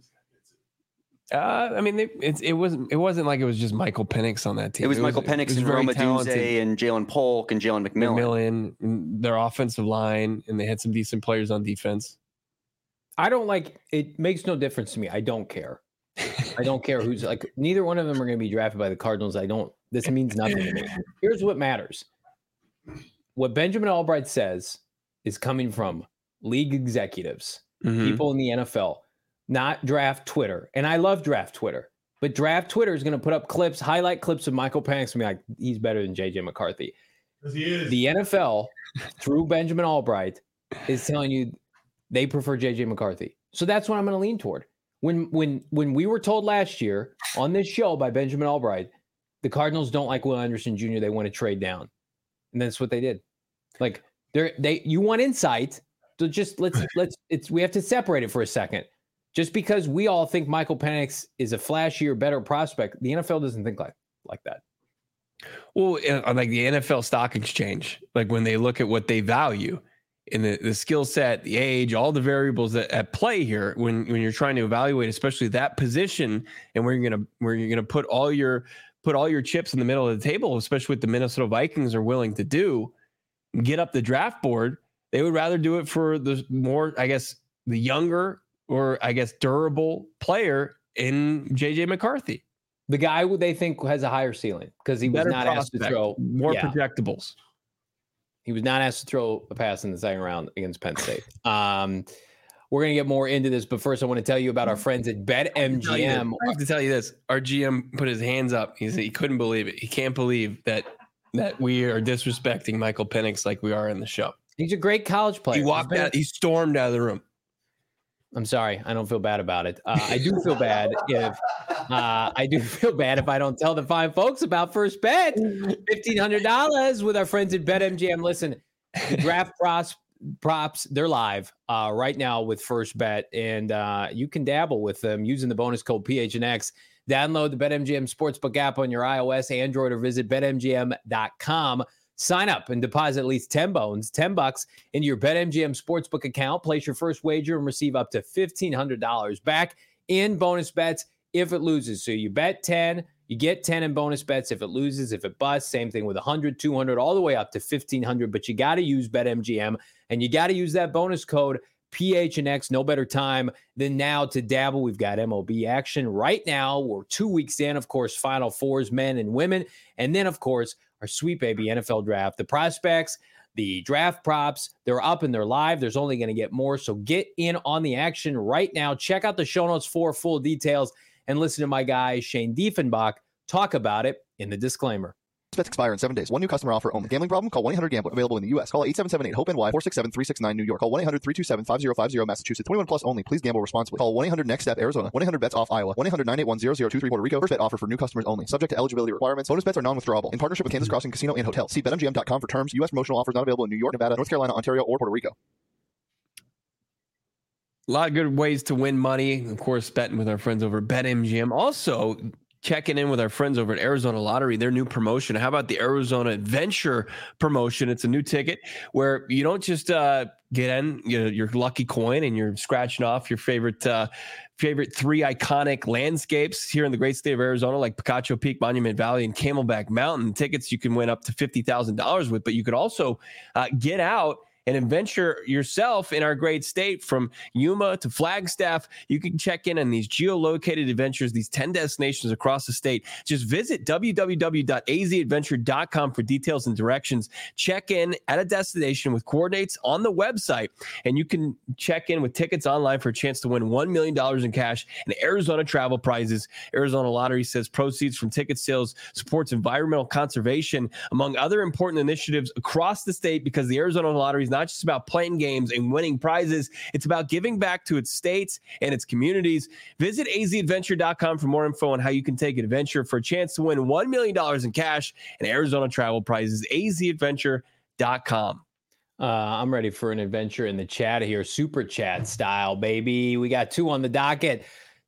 Speaker 2: I mean, it wasn't like it was just Michael Penix on that team.
Speaker 4: It was Michael Penix and Roma Dunze and Jalen Polk and Jalen McMillan.
Speaker 2: Their offensive line, and they had some decent players on defense.
Speaker 1: I don't like it. Makes no difference to me. I don't care. I don't care who's like. Neither one of them are going to be drafted by the Cardinals. This means nothing to me. Here's what matters. What Benjamin Albright says is coming from league executives, people in the NFL. Not draft Twitter. And I love draft Twitter. But draft Twitter is going to put up highlight clips of Michael Penix and be like, he's better than JJ McCarthy.
Speaker 5: Because he is.
Speaker 1: The NFL, through Benjamin Albright, is telling you they prefer JJ McCarthy. So that's what I'm going to lean toward. When we were told last year on this show by Benjamin Albright, the Cardinals don't like Will Anderson Jr., they want to trade down. And that's what they did. Like, You want insight. So just we have to separate it for a second. Just because we all think Michael Penix is a flashier, better prospect, the NFL doesn't think like that.
Speaker 2: Well, on like the NFL stock exchange, like when they look at what they value in the skill set, the age, all the variables that at play here, when you're trying to evaluate, especially that position, and where you're gonna put all your chips in the middle of the table, especially what the Minnesota Vikings are willing to do, get up the draft board. They would rather do it for the more, I guess, the younger or I guess durable player in JJ McCarthy.
Speaker 1: The guy who they think has a higher ceiling because he was not asked to throw
Speaker 2: more projectables.
Speaker 1: He was not asked to throw a pass in the second round against Penn State. We're going to get more into this, but first I want to tell you about our friends at BetMGM.
Speaker 2: I have to tell you this. Our GM put his hands up. He couldn't believe it. He can't believe that we are disrespecting Michael Penix like we are in the show.
Speaker 1: He's a great college player.
Speaker 2: He walked out. He stormed out of the room.
Speaker 1: I'm sorry. I don't feel bad about it. I do feel bad if I don't tell the fine folks about First Bet. $1,500 with our friends at BetMGM. Listen, the draft props, they're live right now with First Bet, and you can dabble with them using the bonus code PHNX. Download the BetMGM Sportsbook app on your iOS, Android, or visit BetMGM.com. Sign up and deposit at least $10 into your BetMGM Sportsbook account. Place your first wager and receive up to $1,500 back in bonus bets if it loses. So you bet 10, you get 10 in bonus bets. If it loses, if it busts, same thing with 100, 200, all the way up to 1,500. But you got to use BetMGM, and you got to use that bonus code PHNX. No better time than now to dabble. We've got MLB action right now. We're 2 weeks in, of course, Final Fours, men and women. And then, of course, our Sweet Baby NFL draft. The prospects, the draft props, they're up and they're live. There's only going to get more. So get in on the action right now. Check out the show notes for full details and listen to my guy, Shane Diefenbach, talk about it in the disclaimer.
Speaker 5: Bets expire in 7 days. One new customer offer only. Gambling problem? Call 1-800-GAMBLER. Available in the U.S. Call 877-8-HOPE-NY 467-369 New York. Call 1-800-327-5050 Massachusetts. 21 plus only. Please gamble responsibly. Call 1-800-NEXT-STEP Arizona. 1-800-BETS-OFF Iowa. 1-800-981-0023 Puerto Rico. First bet offer for new customers only. Subject to eligibility requirements. Bonus bets are non-withdrawable. In partnership with Kansas Crossing Casino and Hotel. See BetMGM.com for terms. U.S. promotional offers not available in New York, Nevada, North Carolina, Ontario, or Puerto Rico.
Speaker 2: A lot of good ways to win money. Of course, betting with our friends over at BetMGM. Also, checking in with our friends over at Arizona Lottery, their new promotion. How about the Arizona Adventure promotion? It's a new ticket where you don't just get in your lucky coin and you're scratching off your favorite three iconic landscapes here in the great state of Arizona, like Picacho Peak, Monument Valley, and Camelback Mountain. Tickets you can win up to $50,000 with, but you could also get out and adventure yourself in our great state from Yuma to Flagstaff. You can check in on these geolocated adventures, these 10 destinations across the state. Just visit www.azadventure.com for details and directions. Check in at a destination with coordinates on the website, and you can check in with tickets online for a chance to win $1 million in cash and Arizona travel prizes. Arizona Lottery says proceeds from ticket sales supports environmental conservation, among other important initiatives across the state, because the Arizona Lottery is not just about playing games and winning prizes. It's about giving back to its states and its communities. Visit azadventure.com for more info on how you can take an adventure for a chance to win $1 million in cash and Arizona travel prizes. azadventure.com.
Speaker 1: I'm ready for an adventure in the chat here. Super chat style, baby. We got 2 on the docket.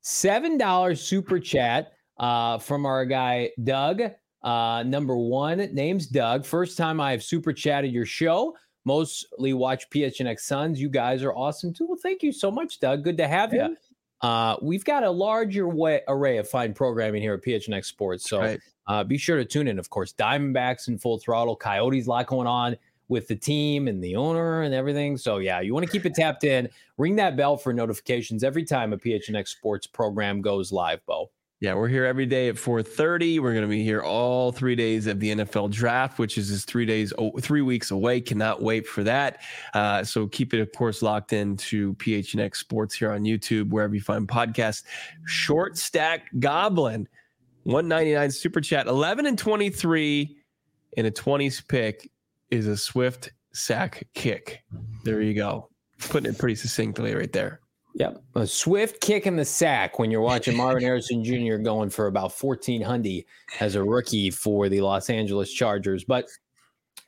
Speaker 1: $7 super chat from our guy, Doug. Number 1, name's Doug. First time I have super chatted your show. Mostly watch PHNX Suns. You guys are awesome too. Well, thank you so much, Doug. Good to have you. We've got a larger array of fine programming here at PHNX Sports. So be sure to tune in. Of course, Diamondbacks in full throttle. Coyotes, a lot going on with the team and the owner and everything. So yeah, you want to keep it tapped in. Ring that bell for notifications every time a PHNX Sports program goes live, Bo.
Speaker 2: Yeah, we're here every day at 4:30. We're going to be here all 3 days of the NFL draft, which is just 3 weeks away. Cannot wait for that. So keep it, of course, locked into PHNX Sports here on YouTube, wherever you find podcasts. Short Stack Goblin, $1.99 super chat, 11 and 23 in a 20s pick is a swift sack kick. There you go. Putting it pretty succinctly right there.
Speaker 1: Yep. A swift kick in the sack when you're watching Marvin Harrison Jr. going for about 1,400 as a rookie for the Los Angeles Chargers. But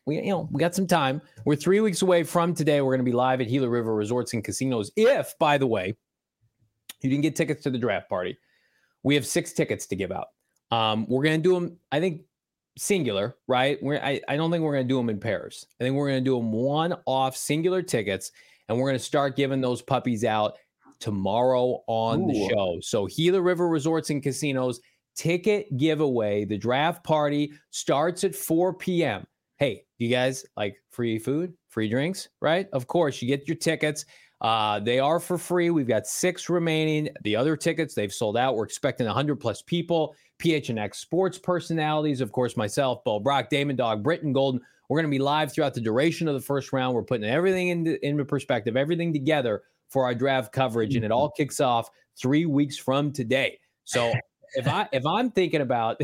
Speaker 1: We got some time. We're 3 weeks away from today. We're going to be live at Gila River Resorts and Casinos. If, by the way, you didn't get tickets to the draft party, we have 6 tickets to give out. We're going to do them, I think, singular, right? I don't think we're going to do them in pairs. I think we're going to do them one-off singular tickets, and we're going to start giving those puppies out tomorrow on the show. So Gila River Resorts and Casinos ticket giveaway. The draft party starts at 4 p.m. Hey, you guys like free food, free drinks, right? Of course, you get your tickets. They are for free. We've got 6 remaining. The other tickets, they've sold out. We're expecting 100 plus people. PHNX sports personalities, of course, myself, Bo Brock, Damon Dog, Britton Golden. We're going to be live throughout the duration of the first round. We're putting everything into perspective, everything together for our draft coverage, and it all kicks off 3 weeks from today. So if I'm thinking about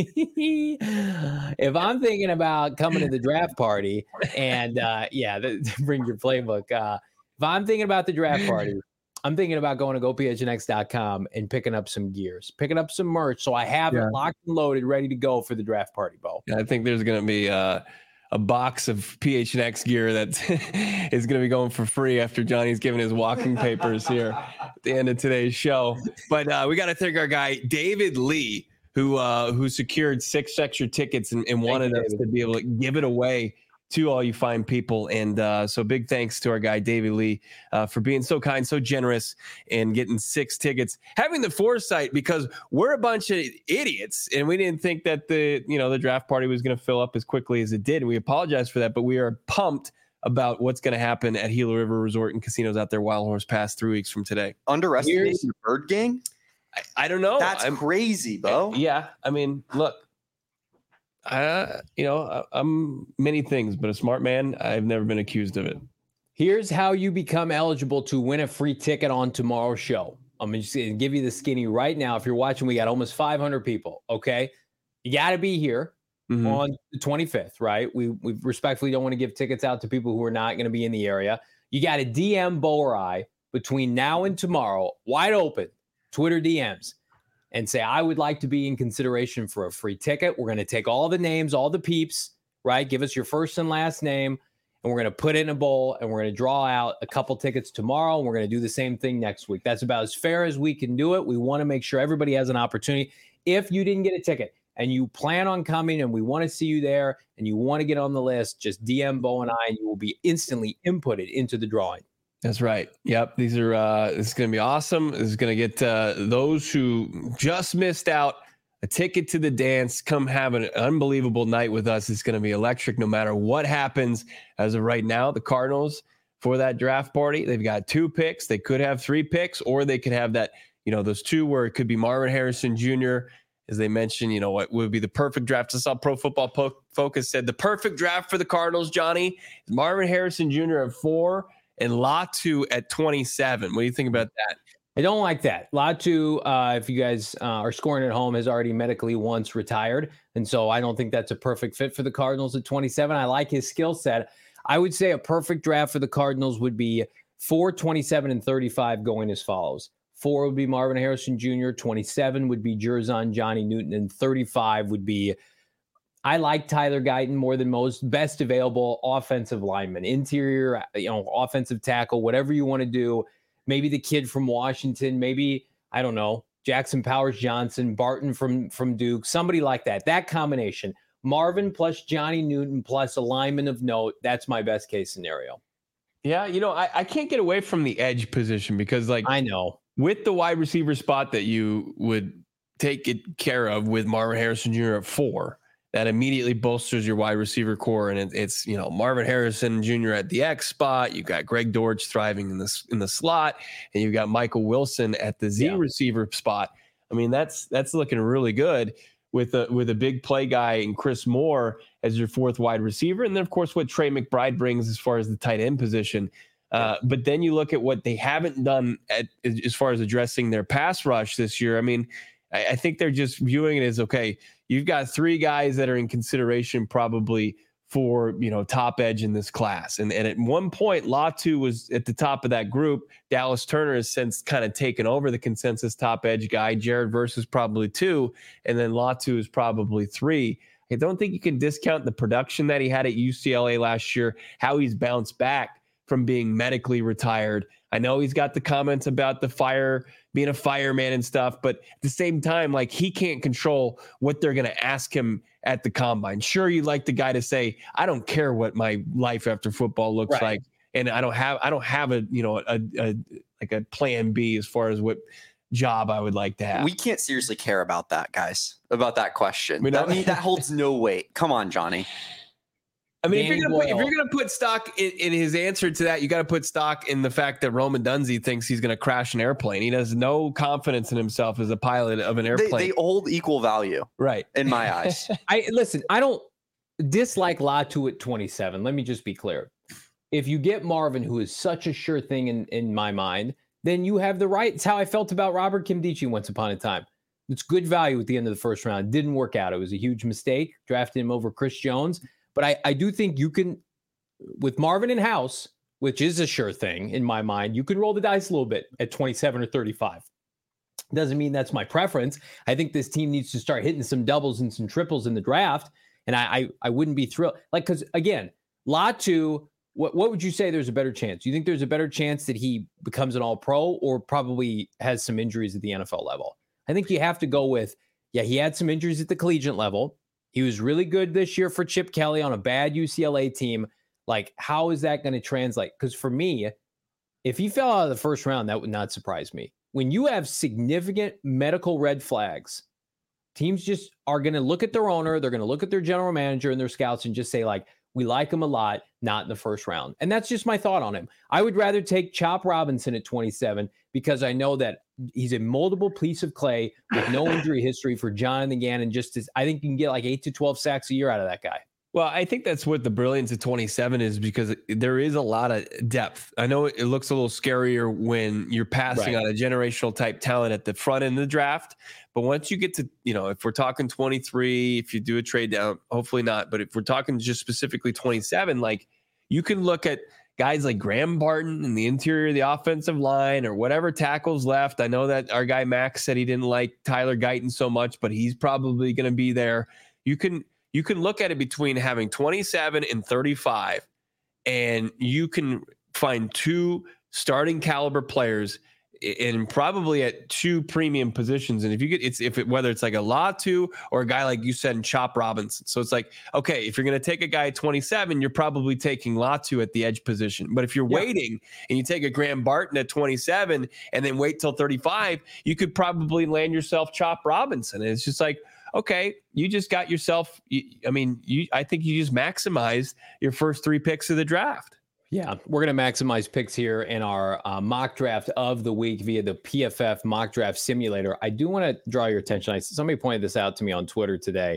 Speaker 1: coming to the draft party and bring your playbook. If I'm thinking about the draft party, I'm thinking about going to gophnx.com and picking up some gears, picking up some merch, so I have it locked and loaded, ready to go for the draft party, Bo.
Speaker 2: I think there's going to be a box of PHNX gear that is going to be going for free after Johnny's giving his walking papers here at the end of today's show. But we got to thank our guy, David Lee, who secured 6 extra tickets and wanted us to be able to give it away to all you fine people. And so big thanks to our guy, David Lee, for being so kind, so generous, and getting 6 tickets, having the foresight, because we're a bunch of idiots and we didn't think that the draft party was going to fill up as quickly as it did. And we apologize for that, but we are pumped about what's going to happen at Gila River Resort and Casinos out there, Wild Horse Pass, 3 weeks from today.
Speaker 4: Underestimating the Bird Gang?
Speaker 2: I don't know.
Speaker 4: That's crazy, Bo.
Speaker 2: Yeah. I mean, look, I'm many things, but a smart man. I've never been accused of it.
Speaker 1: Here's how you become eligible to win a free ticket on tomorrow's show. I'm just going to give you the skinny right now. If you're watching, we got almost 500 people. Okay. You got to be here on the 25th, right? We respectfully don't want to give tickets out to people who are not going to be in the area. You got to DM Bo or I between now and tomorrow, wide open, Twitter DMs, and say, I would like to be in consideration for a free ticket. We're going to take all the names, all the peeps, right? Give us your first and last name, and we're going to put it in a bowl, and we're going to draw out a couple tickets tomorrow, and we're going to do the same thing next week. That's about as fair as we can do it. We want to make sure everybody has an opportunity. If you didn't get a ticket and you plan on coming and we want to see you there and you want to get on the list, just DM Bo and I, and you will be instantly inputted into the drawing.
Speaker 2: That's right. Yep. These are, this is going to be awesome. This is going to get those who just missed out a ticket to the dance. Come have an unbelievable night with us. It's going to be electric no matter what happens. As of right now, the Cardinals, for that draft party, they've got 2 picks. They could have 3 picks, or they could have that, those 2 where it could be Marvin Harrison Jr., as they mentioned, what would be the perfect draft. I saw Pro Football Focus said the perfect draft for the Cardinals, Johnny, Marvin Harrison Jr. at 4 and Latu at 27. What do you think about that?
Speaker 1: I don't like that. Latu, if you guys are scoring at home, has already medically once retired. And so I don't think that's a perfect fit for the Cardinals at 27. I like his skill set. I would say a perfect draft for the Cardinals would be 4, 27, and 35 going as follows. 4 would be Marvin Harrison Jr., 27 would be Jerzon Johnny Newton, and 35 would be, I like Tyler Guyton more than most, best available offensive lineman, interior, offensive tackle, whatever you want to do. Maybe the kid from Washington, maybe, I don't know, Jackson Powers Johnson, Barton from Duke, somebody like that. That combination, Marvin plus Johnny Newton plus a lineman of note, that's my best case scenario.
Speaker 2: Yeah, I can't get away from the edge position because, I
Speaker 1: know.
Speaker 2: With the wide receiver spot that you would take it care of with Marvin Harrison Jr. at 4, that immediately bolsters your wide receiver core. And it's Marvin Harrison Jr. at the X spot. You've got Greg Dortch thriving in the slot, and you've got Michael Wilson at the Z receiver spot. I mean, that's looking really good with a big play guy and Chris Moore as your 4th wide receiver. And then, of course, what Trey McBride brings as far as the tight end position. But then you look at what they haven't done as far as addressing their pass rush this year. I mean, I think they're just viewing it as, okay, you've got 3 guys that are in consideration probably for, top edge in this class. And at one point, Latu was at the top of that group. Dallas Turner has since kind of taken over the consensus top edge guy. Jared Verse is probably 2. And then Latu is probably 3. I don't think you can discount the production that he had at UCLA last year, how he's bounced back from being medically retired. I know he's got the comments about being a fireman and stuff, but at the same time, like, he can't control what they're going to ask him at the combine. Sure, you'd like the guy to say, I don't care what my life after football looks like. And I don't have a plan B as far as what job I would like to have.
Speaker 4: We can't seriously care about that, guys, about that question. That holds no weight. Come on, Johnny.
Speaker 2: I mean, if you're gonna put stock in his answer to that, you got to put stock in the fact that Roman Dunze thinks he's gonna crash an airplane. He has no confidence in himself as a pilot of an airplane.
Speaker 4: They hold equal value,
Speaker 2: right?
Speaker 4: In my eyes.
Speaker 1: I don't dislike Latu at 27. Let me just be clear. If you get Marvin, who is such a sure thing in my mind, then you have the right. It's how I felt about Robert Nkemdiche once upon a time. It's good value at the end of the first round. It didn't work out. It was a huge mistake, drafting him over Chris Jones. But I do think you can, with Marvin in house, which is a sure thing in my mind, you can roll the dice a little bit at 27 or 35. Doesn't mean that's my preference. I think this team needs to start hitting some doubles and some triples in the draft. And I wouldn't be thrilled. Like, because again, Latu, what would you say there's a better chance? You think there's a better chance that he becomes an all-pro or probably has some injuries at the NFL level? I think you have to go with, he had some injuries at the collegiate level. He was really good this year for Chip Kelly on a bad UCLA team. Like, how is that going to translate? Because for me, if he fell out of the first round, that would not surprise me. When you have significant medical red flags, teams just are going to look at their owner, they're going to look at their general manager and their scouts and just say, like, we like him a lot, not in the first round. And that's just my thought on him. I would rather take Chop Robinson at 27 because I know that he's a moldable piece of clay with no injury history for Jonathan Gannon. I think you can get like 8 to 12 sacks a year out of that guy.
Speaker 2: Well, I think that's what the brilliance of 27 is, because there is a lot of depth. I know it looks a little scarier when you're passing on a generational type talent at the front end of the draft. But once you get to, if we're talking 23, if you do a trade down, hopefully not. But if we're talking just specifically 27, like, you can look at guys like Graham Barton in the interior of the offensive line or whatever tackles left. I know that our guy Max said he didn't like Tyler Guyton so much, but he's probably going to be there. You can look at it between having 27 and 35, and you can find two starting caliber players and probably at two premium positions. And if you get whether it's like a Latu or a guy like you said in Chop Robinson. So it's like, okay, if you're going to take a guy at 27, you're probably taking Latu at the edge position. But if you're waiting and you take a Graham Barton at 27 and then wait till 35, you could probably land yourself Chop Robinson. And it's just like, okay, you just got yourself. I think you just maximized your first 3 picks of the draft.
Speaker 1: Yeah, we're going to maximize picks here in our mock draft of the week via the PFF mock draft simulator. I do want to draw your attention. Somebody pointed this out to me on Twitter today.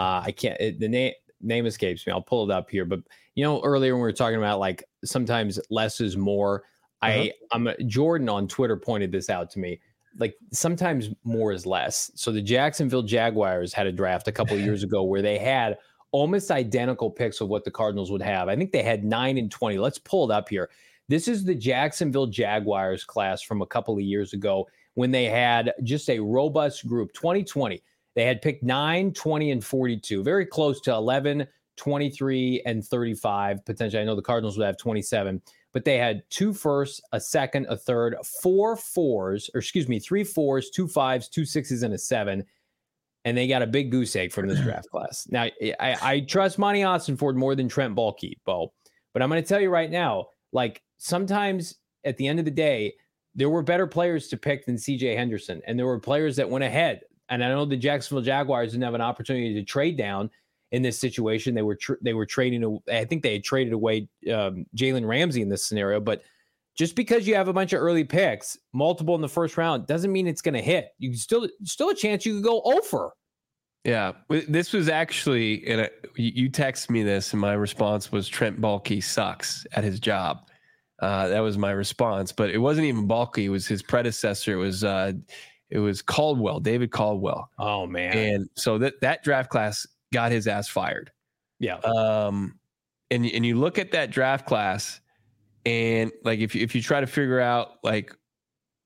Speaker 1: The name escapes me. I'll pull it up here. But, earlier when we were talking about, like, sometimes less is more, Jordan on Twitter pointed this out to me. Like, sometimes more is less. So the Jacksonville Jaguars had a draft a couple of years ago where they had almost identical picks of what the Cardinals would have. I think they had 9 and 20. Let's pull it up here. This is the Jacksonville Jaguars class from a couple of years ago when they had just a robust group. 2020, they had picked 9, 20, and 42. Very close to 11, 23, and 35. Potentially, I know the Cardinals would have 27. But they had 2 firsts, a second, a third, 3 4s, 2 5s, 2 6s, and a 7. And they got a big goose egg from this draft class. Now, I trust Monty Ossenford more than Trent Baalke, Bo. But I'm going to tell you right now, like, sometimes at the end of the day, there were better players to pick than C.J. Henderson. And there were players that went ahead. And I know the Jacksonville Jaguars didn't have an opportunity to trade down in this situation. They were trading. I think they had traded away Jalen Ramsey in this scenario. But just because you have a bunch of early picks, multiple in the first round, doesn't mean it's going to hit. You still a chance you could go over.
Speaker 2: Yeah, this was actually, you text me this, and my response was Trent Baalke sucks at his job. That was my response, but it wasn't even Baalke. It was his predecessor. It was Caldwell, David Caldwell.
Speaker 1: Oh man!
Speaker 2: And so that draft class got his ass fired.
Speaker 1: Yeah.
Speaker 2: And you look at that draft class, and like if you try to figure out like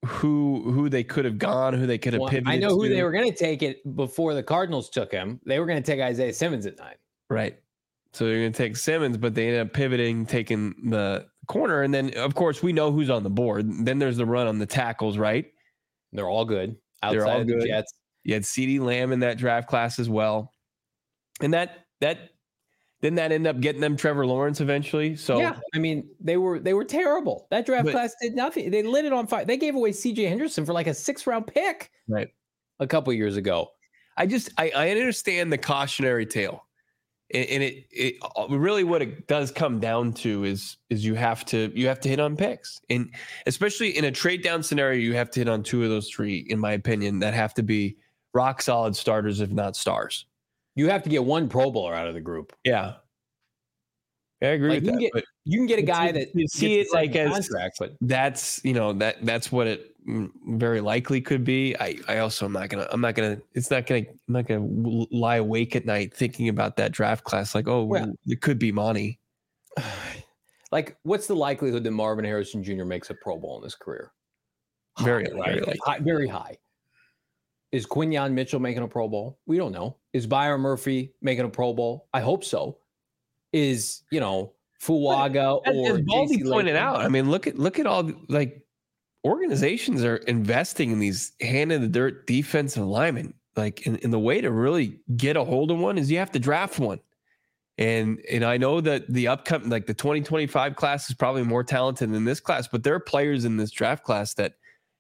Speaker 2: who they could have gone, who they could have pivoted.
Speaker 1: I know who
Speaker 2: to.
Speaker 1: they were going to take it before the Cardinals took him. They were going to take Isaiah Simmons at 9.
Speaker 2: Right. So they're going to take Simmons, but they ended up pivoting, taking the corner. And then, of course, we know who's on the board. Then there's the run on the tackles, right?
Speaker 1: They're all good.
Speaker 2: They're all
Speaker 1: Outside of the
Speaker 2: good.
Speaker 1: Jets.
Speaker 2: You had CeeDee Lamb in that draft class as well. And that didn't that end up getting them Trevor Lawrence eventually? So
Speaker 1: yeah, I mean, they were terrible. That draft class did nothing. They lit it on fire. They gave away CJ Henderson for like a 6th-round pick a couple years ago.
Speaker 2: I understand the cautionary tale. And it really what it does come down to is you have to hit on picks. And especially in a trade down scenario, you have to hit on 2 of those 3, in my opinion, that have to be rock solid starters, if not stars.
Speaker 1: You have to get one Pro Bowler out of the group.
Speaker 2: Yeah. I agree with that.
Speaker 1: You can get a guy that
Speaker 2: you see it like as
Speaker 1: contract, but
Speaker 2: that's that's what it very likely could be. I'm not gonna lie awake at night thinking about that draft class. Like, it could be Monty.
Speaker 1: Like, what's the likelihood that Marvin Harrison Jr. makes a Pro Bowl in his career?
Speaker 2: Very
Speaker 1: high. Is Quinyon Mitchell making a Pro Bowl? We don't know. Is Byron Murphy making a Pro Bowl? I hope so. Is, Fuaga or
Speaker 2: as Baldy pointed out, I mean, look at all organizations are investing in these hand in the dirt defensive linemen. Like, in the way to really get a hold of one is you have to draft one. And I know that the upcoming, like the 2025 class is probably more talented than this class, but there are players in this draft class that,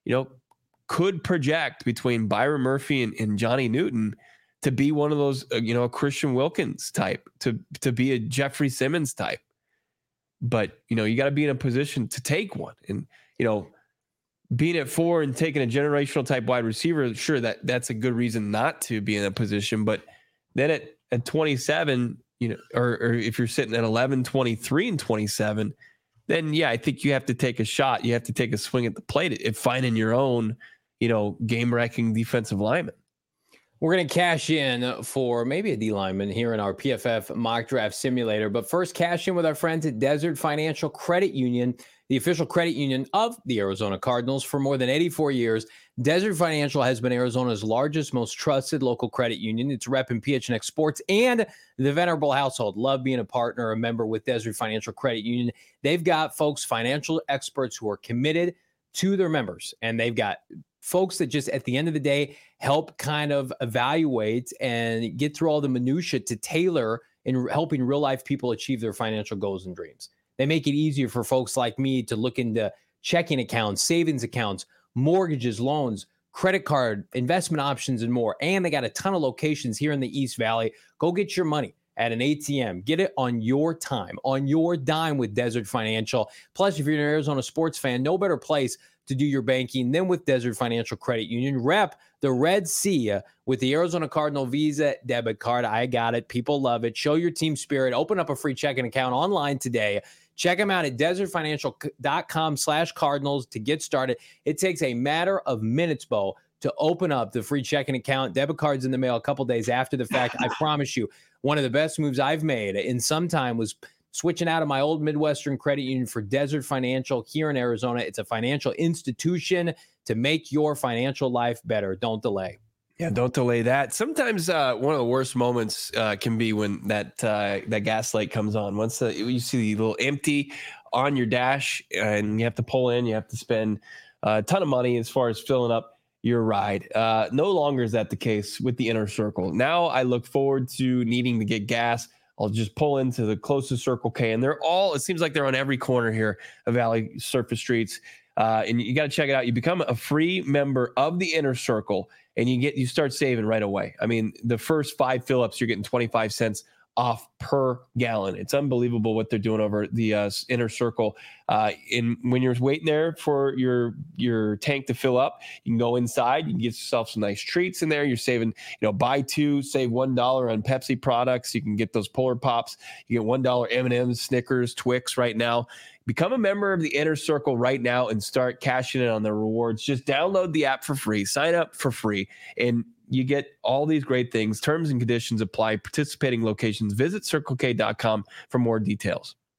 Speaker 2: could project between Byron Murphy and Johnny Newton to be one of those, a Christian Wilkins type, to be a Jeffrey Simmons type. But, you got to be in a position to take one. And, being at 4 and taking a generational type wide receiver, sure, that's a good reason not to be in a position. But then at 27, or if you're sitting at 11, 23, and 27, then, yeah, I think you have to take a shot. You have to take a swing at the plate if finding your own, game-wrecking defensive lineman.
Speaker 1: We're going to cash in for maybe a D lineman here in our PFF mock draft simulator. But first, cash in with our friends at Desert Financial Credit Union, the official credit union of the Arizona Cardinals. For more than 84 years, Desert Financial has been Arizona's largest, most trusted local credit union. It's rep in PHNX Sports and the Venerable household. Love being a partner, a member with Desert Financial Credit Union. They've got folks, financial experts who are committed to their members, and they've got folks that just at the end of the day help kind of evaluate and get through all the minutia to tailor in helping real life people achieve their financial goals and dreams. They make it easier for folks like me to look into checking accounts, savings accounts, mortgages, loans, credit card, investment options, and more. And they got a ton of locations here in the East Valley. Go get your money at an ATM. Get it on your time, on your dime with Desert Financial. Plus, if you're an Arizona sports fan, no better place to do your banking than with Desert Financial Credit Union. Rep the Red Sea with the Arizona Cardinal Visa debit card. I got it. People love it. Show your team spirit. Open up a free checking account online today. Check them out at desertfinancial.com/Cardinals to get started. It takes a matter of minutes, Bo, to open up the free checking account. Debit cards in the mail a couple days after the fact. I promise you, one of the best moves I've made in some time was switching out of my old Midwestern credit union for Desert Financial here in Arizona. It's a financial institution to make your financial life better. Don't delay.
Speaker 2: Yeah, don't delay that. Sometimes one of the worst moments can be when that gas light comes on. Once you see the little empty on your dash and you have to pull in, you have to spend a ton of money as far as filling up your ride. No longer is that the case with the Inner Circle. Now I look forward to needing to get gas. I'll just pull into the closest Circle K, and it seems like they're on every corner here of Valley Surface Streets. And you got to check it out. You become a free member of the Inner Circle, and you start saving right away. I mean, the first 5 fill-ups, you're getting 25 cents off per gallon. It's unbelievable what they're doing over the Inner Circle. And when you're waiting there for your tank to fill up, you can go inside. You can get yourself some nice treats in there. You're saving, buy 2, save $1 on Pepsi products. You can get those Polar Pops. You get $1 M&M's, Snickers, Twix right now. Become a member of the Inner Circle right now and start cashing in on the rewards. Just download the app for free, sign up for free, and you get all these great things. Terms and conditions apply. Participating locations. Visit CircleK.com for more details.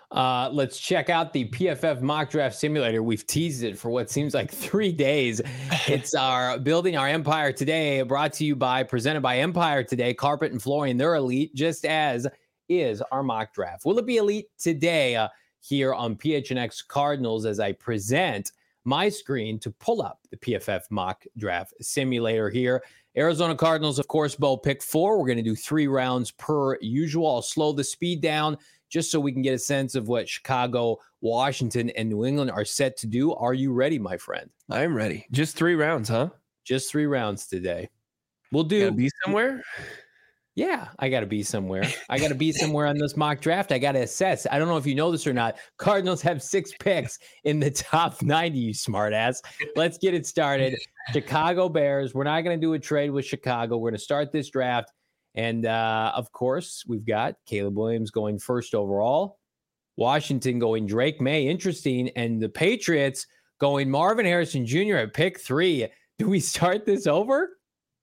Speaker 1: Let's check out the PFF mock draft simulator. We've teased it for what seems like 3 days. It's our Building Our Empire Today, presented by Empire Today, Carpet and Flooring. They're elite, just as is our mock draft. Will it be elite today here on PHNX Cardinals as I present my screen to pull up the PFF mock draft simulator here? Arizona Cardinals, of course, Bo, pick 4. We're going to do 3 rounds per usual. I'll slow the speed down just so we can get a sense of what Chicago, Washington, and New England are set to do. Are you ready, my friend?
Speaker 2: I'm ready. Just 3 rounds, huh?
Speaker 1: Just 3 rounds today. We'll do.
Speaker 2: Gotta be somewhere?
Speaker 1: Yeah, I got to be somewhere. I got to be somewhere on this mock draft. I got to assess. I don't know if you know this or not. Cardinals have 6 picks in the top 90, you smartass. Let's get it started. Chicago Bears. We're not going to do a trade with Chicago. We're going to start this draft. And, of course, we've got Caleb Williams going first overall. Washington going Drake May. Interesting. And the Patriots going Marvin Harrison Jr. at pick 3. Do we start this over?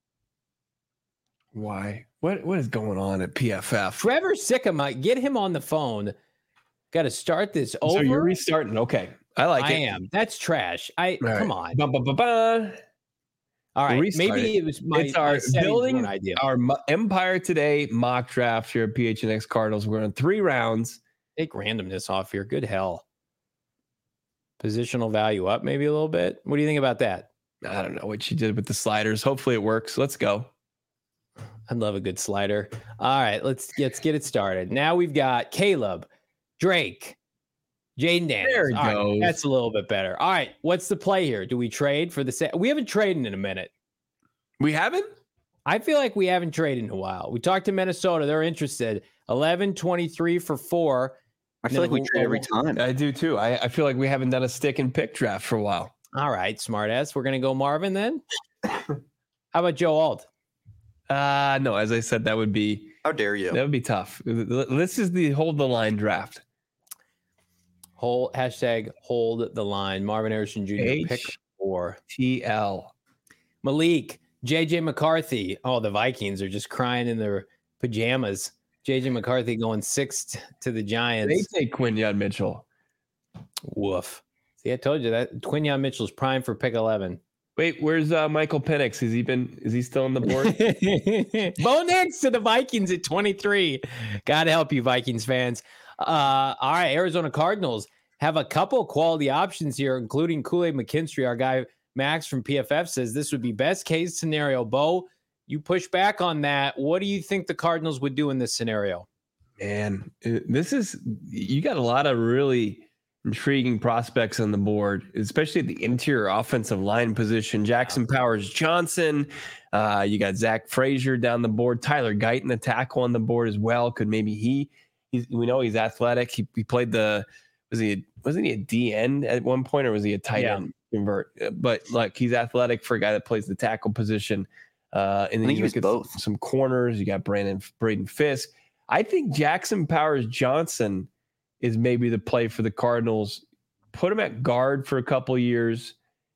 Speaker 2: Why? What is going on at PFF?
Speaker 1: Trevor Sikkema, get him on the phone. Got to start this over.
Speaker 2: So you're restarting. Okay. I like it.
Speaker 1: I am. That's trash. Come on.
Speaker 2: Ba-ba-ba-ba.
Speaker 1: All right. Maybe it was
Speaker 2: it's our building
Speaker 1: idea.
Speaker 2: Our Empire Today mock draft here at PHNX Cardinals. We're on 3 rounds.
Speaker 1: Take randomness off here. Good hell. Positional value up maybe a little bit. What do you think about that?
Speaker 2: I don't know what you did with the sliders. Hopefully it works. Let's go.
Speaker 1: I love a good slider. All right, let's get it started. Now we've got Caleb, Drake, Jaden Daniels.
Speaker 2: There it goes.
Speaker 1: Right, that's a little bit better. All right, what's the play here? Do we trade for the set? We haven't traded in a minute.
Speaker 2: We haven't?
Speaker 1: I feel like we haven't traded in a while. We talked to Minnesota. They're interested. 11-23 for 4.
Speaker 4: I feel like we trade every time.
Speaker 2: I do too. I feel like we haven't done a stick and pick draft for a while.
Speaker 1: All right, smartass. We're going to go Marvin then. How about Joe Alt?
Speaker 2: No, as I said, that would be.
Speaker 4: How dare you?
Speaker 2: That would be tough. This is the hold the line draft.
Speaker 1: Hold the line. Marvin Harrison Jr. pick 4.
Speaker 2: TL.
Speaker 1: Malik, JJ McCarthy. Oh, the Vikings are just crying in their pajamas. JJ McCarthy going 6th to the Giants.
Speaker 2: They take Quinyon Mitchell.
Speaker 1: Woof. See, I told you that Quinyon Mitchell's prime for pick 11.
Speaker 2: Wait, where's Michael Penix? Is he still on the board?
Speaker 1: Bo Nix to the Vikings at 23. God help you, Vikings fans. All right, Arizona Cardinals have a couple quality options here, including Kool-Aid McKinstry. Our guy Max from PFF says this would be best case scenario. Bo, you push back on that. What do you think the Cardinals would do in this scenario?
Speaker 2: Man, you got a lot of really intriguing prospects on the board, especially at the interior offensive line position. Jackson Powers Johnson. You got Zach Frazier down the board. Tyler Guyton, the tackle on the board as well. Could maybe we know he's athletic. He played wasn't he a D end at one point, or was he a tight end convert? But like, he's athletic for a guy that plays the tackle position. And then you look at both some corners. You got Braden Fisk. I think Jackson Powers Johnson is maybe the play for the Cardinals. Put him at guard for a couple years,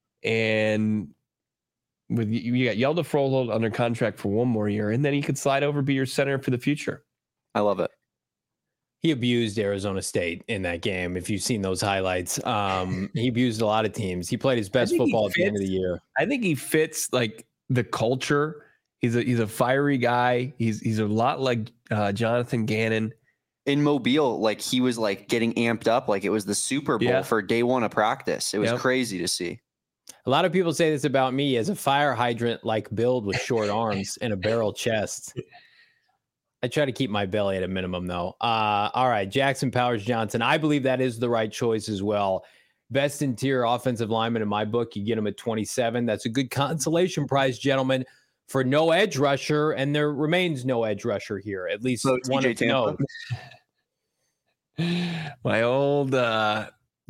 Speaker 2: and with you got Yelda Froholt under contract for 1 more year, and then he could slide over, be your center for the future.
Speaker 4: I love it.
Speaker 1: He abused Arizona State in that game. If you've seen those highlights, he abused a lot of teams. He played his best football at the end of the year.
Speaker 2: I think he fits like the culture. He's a fiery guy. He's a lot like Jonathan Gannon.
Speaker 4: In Mobile, like he was like getting amped up like it was the Super Bowl for day 1 of practice. It was crazy to see.
Speaker 1: A lot of people say this about me as a fire hydrant like build with short arms and a barrel chest. I try to keep my belly at a minimum, though. All right, Jackson Powers Johnson. I believe that is the right choice as well. Best interior offensive lineman in my book. You get him at 27. That's a good consolation prize, gentlemen, for no edge rusher, and there remains no edge rusher here. At least one to know.
Speaker 2: My old.
Speaker 1: I'll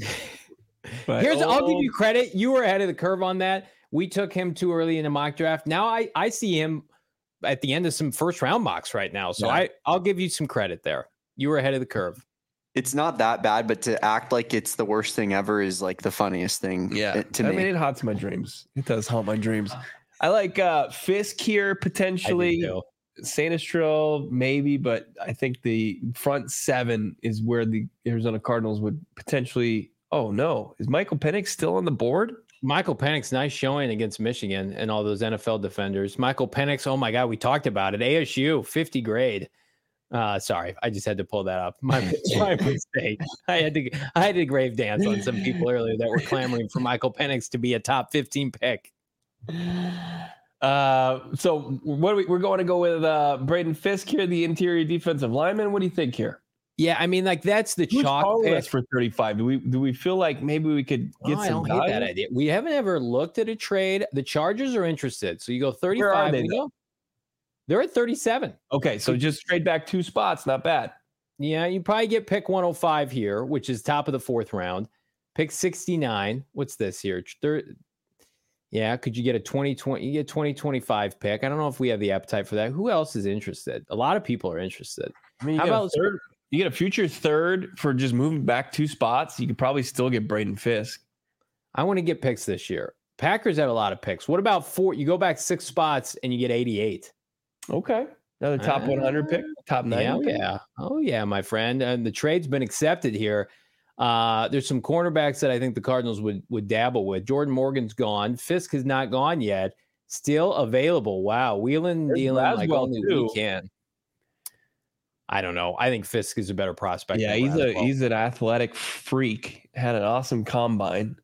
Speaker 1: give you credit. You were ahead of the curve on that. We took him too early in the mock draft. Now I see him at the end of some first round mocks right now. So I'll give you some credit there. You were ahead of the curve.
Speaker 4: It's not that bad, but to act like it's the worst thing ever is like the funniest thing to me.
Speaker 2: I mean, it haunts my dreams. It does haunt my dreams. I like Fisk here potentially. Sanistril, maybe, but I think the front seven is where the Arizona Cardinals would potentially. Oh no, is Michael Penix still on the board?
Speaker 1: Michael Penix, nice showing against Michigan and all those NFL defenders. Michael Penix, oh my God, we talked about it. ASU, 50 grade. Sorry, I just had to pull that up. My mistake. I had to grave dance on some people earlier that were clamoring for Michael Penix to be a top 15 pick.
Speaker 2: So we're going to go with Braden Fisk here, the interior defensive lineman. What do you think here?
Speaker 1: Yeah, I mean, like that's the chalk pick
Speaker 2: for 35. Do we feel like maybe we could get some? I don't hate
Speaker 1: that idea. We haven't ever looked at a trade. The Chargers are interested, so you go 35. Where are they, they're at 37.
Speaker 2: Okay, so just trade back 2 spots, not bad.
Speaker 1: Yeah, you probably get pick 105 here, which is top of the 4th round. Pick 69. What's this here? Yeah, could you get a 2020? You get 2025 pick. I don't know if we have the appetite for that. Who else is interested? A lot of people are interested.
Speaker 2: I mean, how about third? You get a future 3rd for just moving back 2 spots. You could probably still get Braden Fisk.
Speaker 1: I want to get picks this year. Packers have a lot of picks. What about 4? You go back 6 spots and you get 88.
Speaker 2: Okay. Another top 100 pick, top 90.
Speaker 1: Oh, yeah, my friend. And the trade's been accepted here. There's some cornerbacks that I think the Cardinals would dabble with. Jordan Morgan's gone. Fisk has not gone yet. Still available. Wow. Wheeling, dealing like only we can. I don't know. I think Fisk is a better prospect.
Speaker 2: Yeah, he's an athletic freak. Had an awesome combine.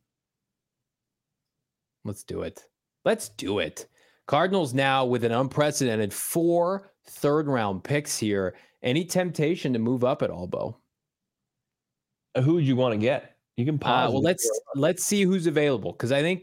Speaker 1: Let's do it. Cardinals now with an unprecedented 4 third-round picks here. Any temptation to move up at all, Bo?
Speaker 2: Who would you want to get? You can pause.
Speaker 1: Well, let's see who's available because I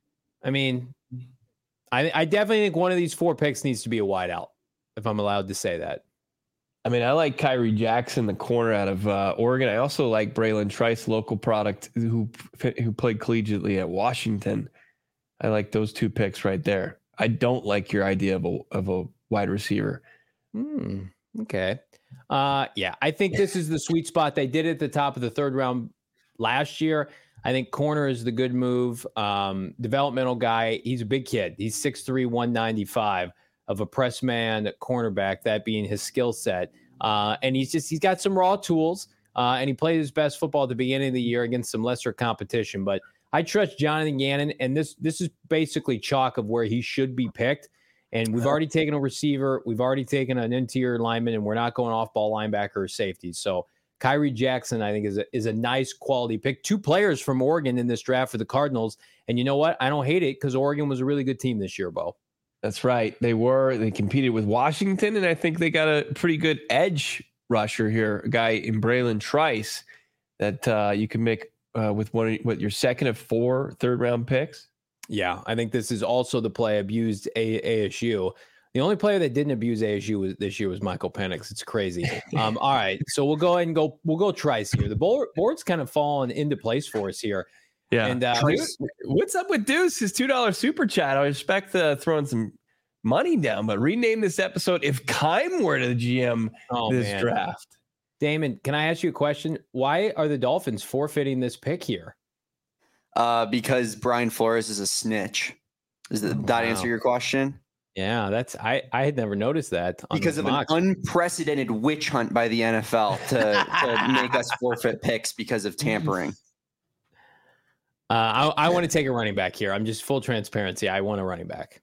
Speaker 1: definitely think one of these 4 picks needs to be a wideout, if I'm allowed to say that.
Speaker 2: I mean, I like Kyrie Jackson, the corner out of Oregon. I also like Braylon Trice, local product who played collegiately at Washington. I like those 2 picks right there. I don't like your idea of a wide receiver.
Speaker 1: Okay. Yeah, I think this is the sweet spot. They did it at the top of the 3rd round last year. I think corner is the good move. Developmental guy. He's a big kid. He's 6'3", 195 of a press man cornerback, that being his skill set. And he's got some raw tools. And he played his best football at the beginning of the year against some lesser competition. But I trust Jonathan Gannon, and this is basically chalk of where he should be picked. And we've already taken a receiver. We've already taken an interior lineman, and we're not going off-ball linebacker or safety. So Kyrie Jackson, I think, is a nice quality pick. 2 players from Oregon in this draft for the Cardinals. And you know what? I don't hate it because Oregon was a really good team this year, Bo.
Speaker 2: That's right. They competed with Washington, and I think they got a pretty good edge rusher here, a guy in Braylon Trice that you can make with your 2nd of 4 third-round picks.
Speaker 1: Yeah, I think this is also the play abused ASU. The only player that didn't abuse ASU this year was Michael Penix. It's crazy. All right, so we'll go ahead and we'll go Trice here. The board's kind of fallen into place for us here.
Speaker 2: Yeah. And what's up with Deuce? His $2 super chat. I respect throwing some money down, but rename this episode "If Keim Were to GM this draft."
Speaker 1: Damon, can I ask you a question? Why are the Dolphins forfeiting this pick here?
Speaker 4: Because Brian Flores is a snitch. Does that answer your question?
Speaker 1: Yeah, that's I had never noticed that.
Speaker 4: Because of an unprecedented witch hunt by the NFL to make us forfeit picks because of tampering.
Speaker 1: I want to take a running back here. I'm just full transparency. I want a running back.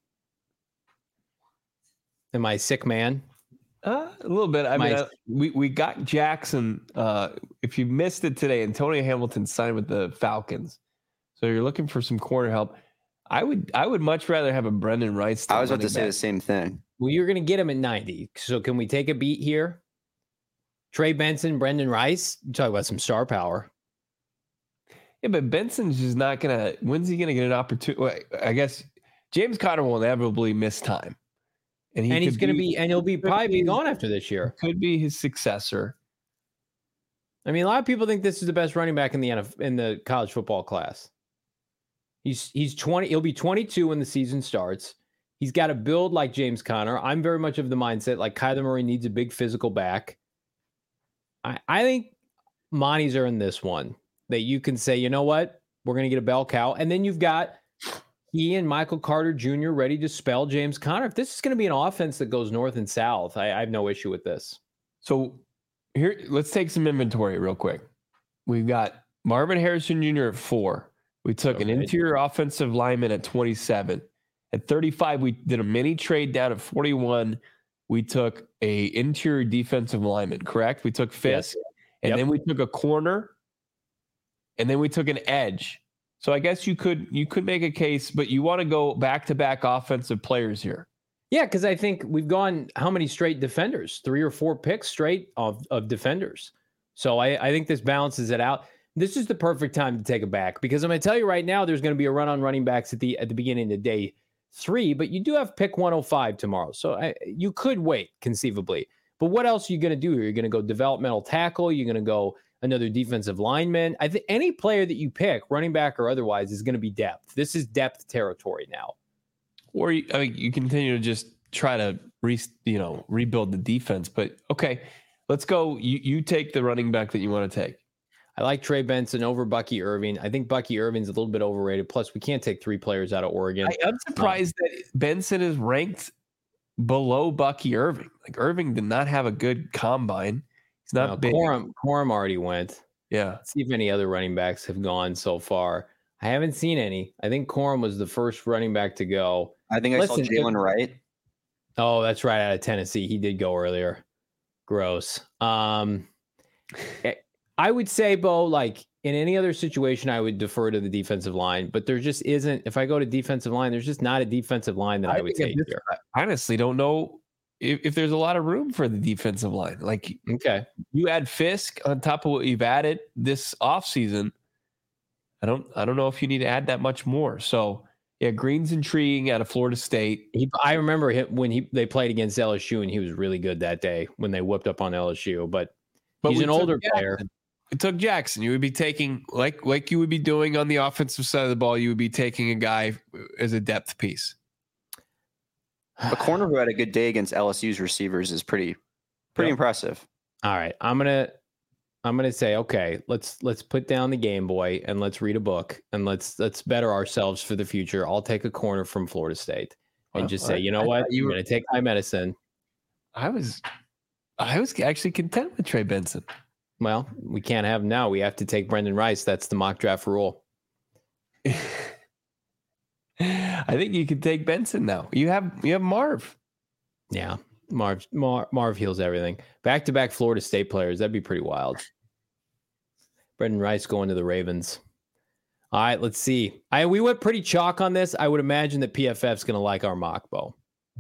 Speaker 1: Am I a sick man?
Speaker 2: A little bit. I mean, we got Jackson. If you missed it today, Antonio Hamilton signed with the Falcons. So you're looking for some corner help. I would much rather have a Brendan Rice.
Speaker 4: I was about to say the same thing.
Speaker 1: Well, you're going to get him at 90. So can we take a beat here? Trey Benson, Brendan Rice. You talk about some star power.
Speaker 2: Yeah, but Benson's just not going to. When's he going to get an opportunity? Well, I guess James Conner will inevitably miss time. And he'll probably be gone after this year. Could be his successor.
Speaker 1: I mean, a lot of people think this is the best running back in the college football class. He's 20. He'll be 22 when the season starts. He's got a build like James Conner. I'm very much of the mindset like Kyler Murray needs a big physical back. I think Monty's earned this one that you can say, you know what, we're going to get a bell cow, and then you've got he and Michael Carter Jr. ready to spell James Conner. If this is going to be an offense that goes north and south, I have no issue with this.
Speaker 2: So here, let's take some inventory real quick. We've got Marvin Harrison Jr. at 4. We took an interior offensive lineman at 27. At 35, we did a mini trade down at 41. We took a interior defensive lineman, correct? We took Fisk, and then we took a corner, and then we took an edge. So I guess you could make a case, but you want to go back-to-back offensive players here.
Speaker 1: Yeah, because I think we've gone how many straight defenders? 3 or 4 picks straight of defenders. So I think this balances it out. This is the perfect time to take a back because I'm going to tell you right now, there's going to be a run on running backs at the beginning of day 3, but you do have pick 105 tomorrow. So you could wait conceivably. But what else are you going to do here? You're going to go developmental tackle. You're going to go another defensive lineman. I think any player that you pick, running back or otherwise, is going to be depth. This is depth territory now.
Speaker 2: Or you continue to just try to rebuild the defense. But okay, let's go. You take the running back that you want to take.
Speaker 1: I like Trey Benson over Bucky Irving. I think Bucky Irving's a little bit overrated. Plus, we can't take 3 players out of Oregon.
Speaker 2: I'm surprised that Benson is ranked below Bucky Irving. Like Irving did not have a good combine. He's not big.
Speaker 1: Corum already went.
Speaker 2: Yeah.
Speaker 1: Let's see if any other running backs have gone so far. I haven't seen any. I think Corum was the first running back to go.
Speaker 4: I think I saw Jalen Wright.
Speaker 1: Oh, that's right. Out of Tennessee. He did go earlier. Gross. I would say, Bo, like in any other situation, I would defer to the defensive line, but there just isn't. If I go to defensive line, there's just not a defensive line that I would take here.
Speaker 2: I honestly don't know if there's a lot of room for the defensive line. Like,
Speaker 1: okay,
Speaker 2: you add Fisk on top of what you've added this offseason. I don't know if you need to add that much more. So yeah, Green's intriguing out of Florida State.
Speaker 1: I remember him when they played against LSU, and he was really good that day when they whipped up on LSU. But he's an older player.
Speaker 2: It took Jackson. You would be taking like you would be doing on the offensive side of the ball. You would be taking a guy as a depth piece.
Speaker 4: A corner who had a good day against LSU's receivers is pretty impressive.
Speaker 1: All right, I'm gonna say, okay, let's put down the Game Boy and let's read a book and let's better ourselves for the future. I'll take a corner from Florida State and just say, you know what, you're gonna take my medicine.
Speaker 2: I was actually content with Trey Benson.
Speaker 1: Well, we can't have him now. We have to take Brendan Rice. That's the mock draft rule.
Speaker 2: I think you could take Benson now. You have Marv.
Speaker 1: Yeah, Marv heals everything. Back-to-back Florida State players. That'd be pretty wild. Brendan Rice going to the Ravens. All right, let's see. We went pretty chalk on this. I would imagine that PFF's going to like our mock, Bo.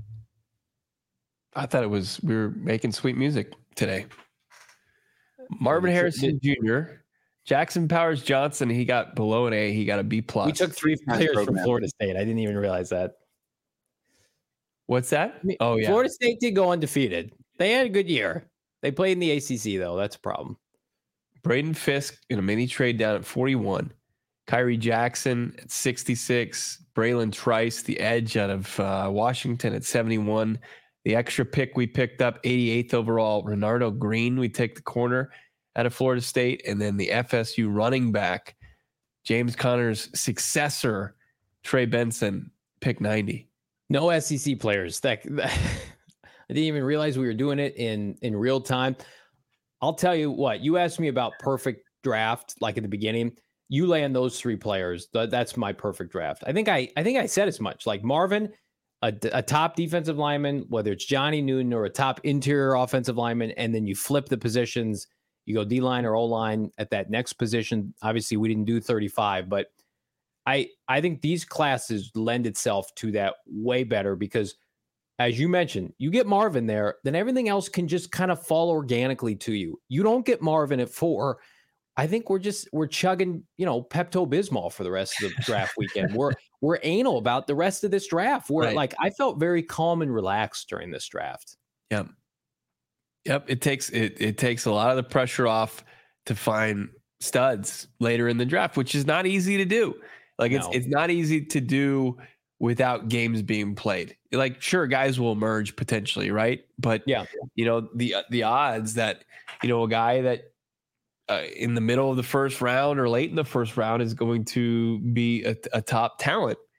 Speaker 2: I thought we were making sweet music today. Marvin Harrison Jr., Jackson Powers Johnson, he got below an A. He got a B+.
Speaker 1: We took 3 players from Florida State. I didn't even realize that.
Speaker 2: What's that? Oh, yeah.
Speaker 1: Florida State did go undefeated. They had a good year. They played in the ACC, though. That's a problem.
Speaker 2: Braden Fisk in a mini trade down at 41. Kyrie Jackson at 66. Braylon Trice, the edge out of Washington at 71. The extra pick we picked up, 88th overall, Renardo Green. We take the corner out of Florida State. And then the FSU running back, James Conner's successor, Trey Benson, pick 90.
Speaker 1: No SEC players. I didn't even realize we were doing it in real time. I'll tell you what, you asked me about perfect draft, like at the beginning. You land those 3 players. That's my perfect draft. I think I said as much. Like Marvin, a top defensive lineman, whether it's Johnny Newton or a top interior offensive lineman, and then you flip the positions. You go D-line or O-line at that next position. Obviously, we didn't do 35, but I think these classes lend itself to that way better because, as you mentioned, you get Marvin there, then everything else can just kind of fall organically to you. You don't get Marvin at 4. I think we're chugging, Pepto-Bismol for the rest of the draft weekend. We're anal about the rest of this draft. I felt very calm and relaxed during this draft.
Speaker 2: Yep. It takes a lot of the pressure off to find studs later in the draft, which is not easy to do. It's not easy to do without games being played. Like, sure, guys will emerge potentially, right? But
Speaker 1: yeah,
Speaker 2: the odds that a guy that in the middle of the first round or late in the first round is going to be a top talent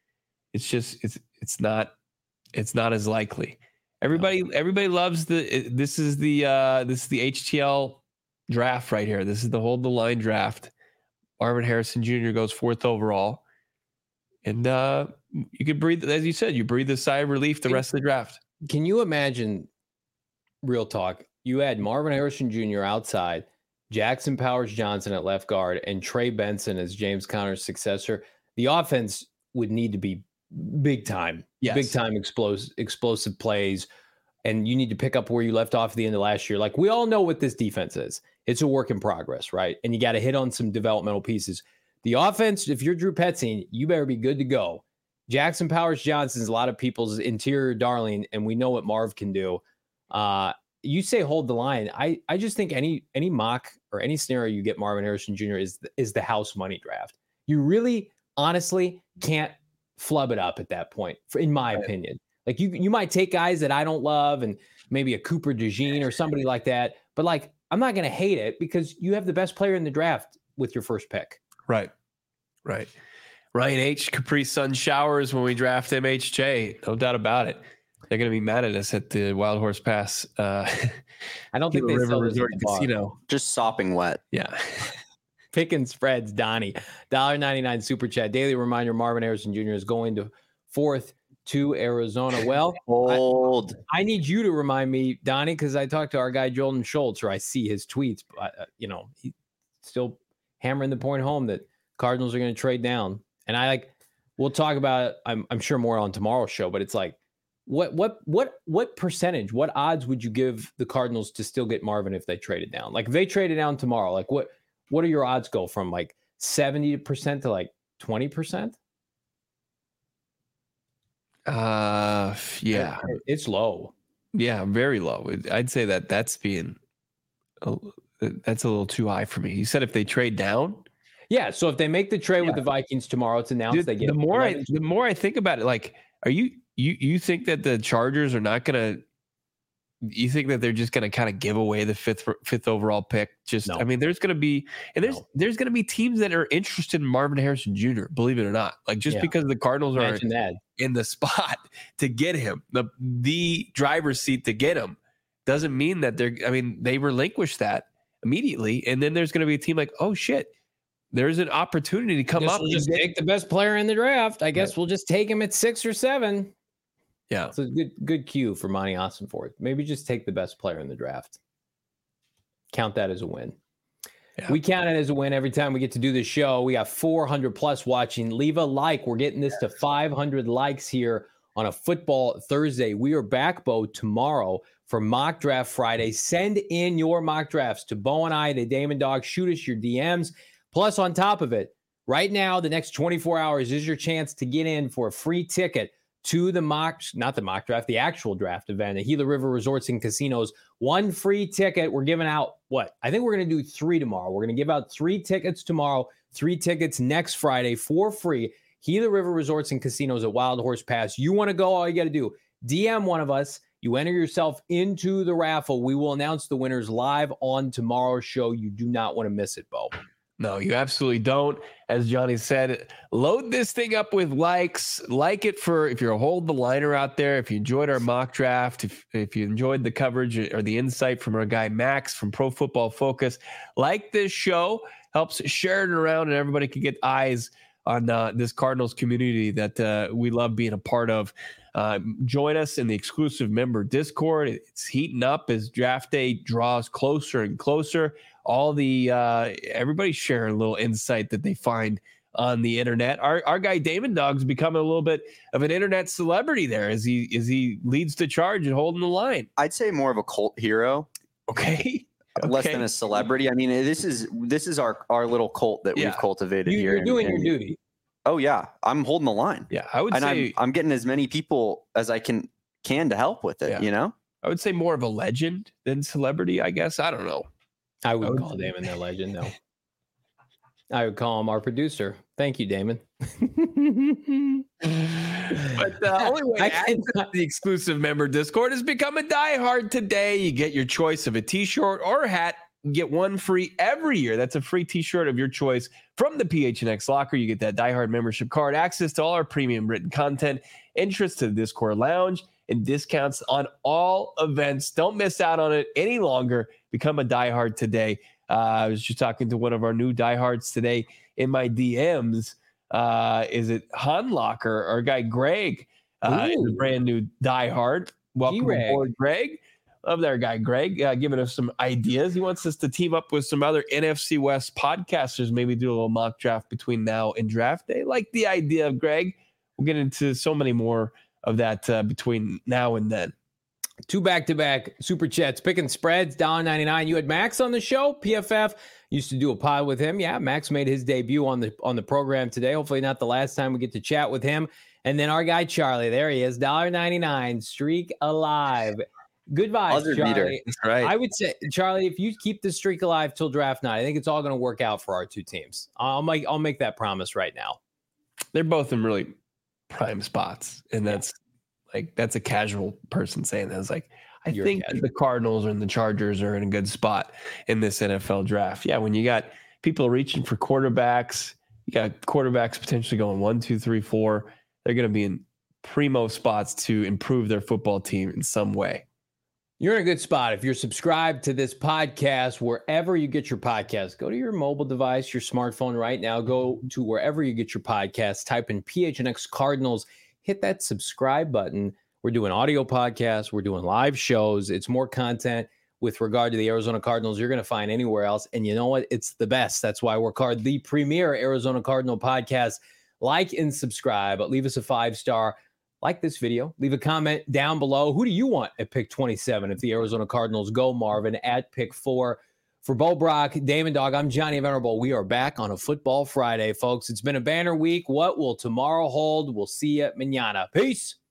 Speaker 2: it's not as likely. Everybody loves this is the HTL draft right here. This is the hold the line draft. Marvin Harrison Jr. goes 4th overall. And you could breathe, as you said, you breathe a sigh of relief the rest of the draft.
Speaker 1: Can you imagine, real talk, you had Marvin Harrison Jr. outside, Jackson Powers Johnson at left guard, and Trey Benson as James Conner's successor? The offense would need to be big time, explosive plays. And you need to pick up where you left off at the end of last year. Like, we all know what this defense is. It's a work in progress, right? And you got to hit on some developmental pieces. The offense, if you're Drew Petzing, you better be good to go. Jackson Powers Johnson is a lot of people's interior darling, and we know what Marv can do. You say hold the line. I just think any mock or any scenario you get Marvin Harrison Jr. is the house money draft. You really, honestly, can't flub it up at that point, in my opinion. Like, you might take guys that I don't love and maybe a Cooper DeJean or somebody like that, but like, I'm not going to hate it because you have the best player in the draft with your first pick.
Speaker 2: Right. Ryan H. Capri Sun showers when we draft MHJ. No doubt about it. They're going to be mad at us at the Wild Horse Pass.
Speaker 1: I don't think they sell Resort
Speaker 2: Casino.
Speaker 4: Just sopping wet.
Speaker 2: Yeah.
Speaker 1: Picking spreads, Donnie. $1.99 super chat. Daily reminder: Marvin Harrison Jr. is going to 4th to Arizona. Well, I need you to remind me, Donnie, because I talked to our guy Jordan Schultz, or I see his tweets. But, he's still hammering the point home that Cardinals are going to trade down. And we'll talk about it, I'm sure more on tomorrow's show, but it's like, what percentage, what odds would you give the Cardinals to still get Marvin if they traded down? Like, if they traded down tomorrow, like what are your odds go from like 70% to like 20%?
Speaker 2: Yeah,
Speaker 1: it's low.
Speaker 2: Yeah, very low. I'd say that's a little too high for me. You said if they trade down.
Speaker 1: Yeah. So if they make the trade with the Vikings tomorrow, it's announced they get
Speaker 2: the more I think about it, like, are you think that the Chargers are not going to, you think that they're just going to kind of give away the fifth overall pick? No. I mean, there's going to be, and there's going to be teams that are interested in Marvin Harrison Jr., believe it or not. Like, just because the Cardinals are in the spot to get him, the driver's seat to get him, doesn't mean that they relinquish that immediately. And then there's going to be a team like, oh shit, there's an opportunity to come up.
Speaker 1: We'll just take the best player in the draft. I guess we'll just take him at 6 or 7.
Speaker 2: Yeah.
Speaker 1: It's a good cue for Monty Ossenfort. Maybe just take the best player in the draft. Count that as a win. Yeah. We count it as a win every time we get to do this show. We got 400 plus watching. Leave a like. We're getting this to 500 likes here on a football Thursday. We are back, Bo, tomorrow for Mock Draft Friday. Send in your mock drafts to Bo and I, to Damon Dog. Shoot us your DMs. Plus, on top of it, right now, the next 24 hours is your chance to get in for a free ticket to the actual draft event at Gila River Resorts and Casinos. 1 free ticket. We're giving out I think we're going to do 3 tomorrow. We're going to give out 3 tickets tomorrow, 3 tickets next Friday for free. Gila River Resorts and Casinos at Wild Horse Pass. You want to go? All you got to do, DM one of us. You enter yourself into the raffle. We will announce the winners live on tomorrow's show. You do not want to miss it, Bo.
Speaker 2: No, you absolutely don't. As Johnny said, load this thing up with likes. Like it if you're a hold the liner out there. If you enjoyed our mock draft, if you enjoyed the coverage or the insight from our guy Max from Pro Football Focus, like this show, helps share it around, and everybody can get eyes on this Cardinals community that we love being a part of. Join us in the exclusive member Discord. It's heating up as draft day draws closer and closer. All the everybody's sharing a little insight that they find on the internet. Our guy Damon Dog's becoming a little bit of an internet celebrity there as he leads the charge and holding the line.
Speaker 4: I'd say more of a cult hero.
Speaker 2: Okay.
Speaker 4: Less than a celebrity. I mean, this is our little cult that we've cultivated here.
Speaker 1: You're doing your duty.
Speaker 4: Oh yeah, I'm holding the line.
Speaker 2: Yeah, I would say
Speaker 4: I'm getting as many people as I can to help with it.
Speaker 2: Yeah. I would say more of a legend than celebrity. I guess I don't know.
Speaker 1: I would call Damon the legend. No, I would call him our producer. Thank you, Damon.
Speaker 2: But the only way to add to the exclusive member Discord is become a diehard today. You get your choice of a t-shirt or a hat get one free every year. That's a free t-shirt of your choice from the PHNX Locker. You get that diehard membership card, access to all our premium written content, entrance to the Discord Lounge, and discounts on all events. Don't miss out on it any longer. Become a diehard today. I was just talking to one of our new diehards today in my DMs. Is it Han Locker? Our guy Greg is a brand new diehard. Welcome aboard, Greg. Love that guy, Greg, giving us some ideas. He wants us to team up with some other NFC West podcasters, maybe do a little mock draft between now and draft day. Like the idea of Greg. We'll get into so many more of that between now and then.
Speaker 1: 2 back-to-back super chats, picking spreads, $1.99. You had Max on the show. PFF used to do a pod with him. Yeah, Max made his debut on the program today. Hopefully not the last time we get to chat with him. And then our guy Charlie, there he is, $1.99, streak alive. Good vibes, Charlie.
Speaker 2: That's right.
Speaker 1: I would say, Charlie, if you keep the streak alive till draft night, I think it's all going to work out for our two teams. I'll make that promise right now.
Speaker 2: They're both in really prime spots, and that's a casual person saying that. It's like, I think the Cardinals and the Chargers are in a good spot in this NFL draft. Yeah, when you got people reaching for quarterbacks, you got quarterbacks potentially going 1, 2, 3, 4. They're going to be in primo spots to improve their football team in some way.
Speaker 1: You're in a good spot. If you're subscribed to this podcast, wherever you get your podcast, go to your mobile device, your smartphone right now. Go to wherever you get your podcast. Type in PHNX Cardinals. Hit that subscribe button. We're doing audio podcasts. We're doing live shows. It's more content with regard to the Arizona Cardinals you're going to find anywhere else. And you know what? It's the best. That's why we're called the premier Arizona Cardinal podcast. Like and subscribe. Leave us a 5-star. Like this video. Leave a comment down below. Who do you want at pick 27 if the Arizona Cardinals go, Marvin, at pick 4? For Bo Brock, Damon Dog, I'm Johnny Venerable. We are back on a Football Friday, folks. It's been a banner week. What will tomorrow hold? We'll see you mañana. Peace.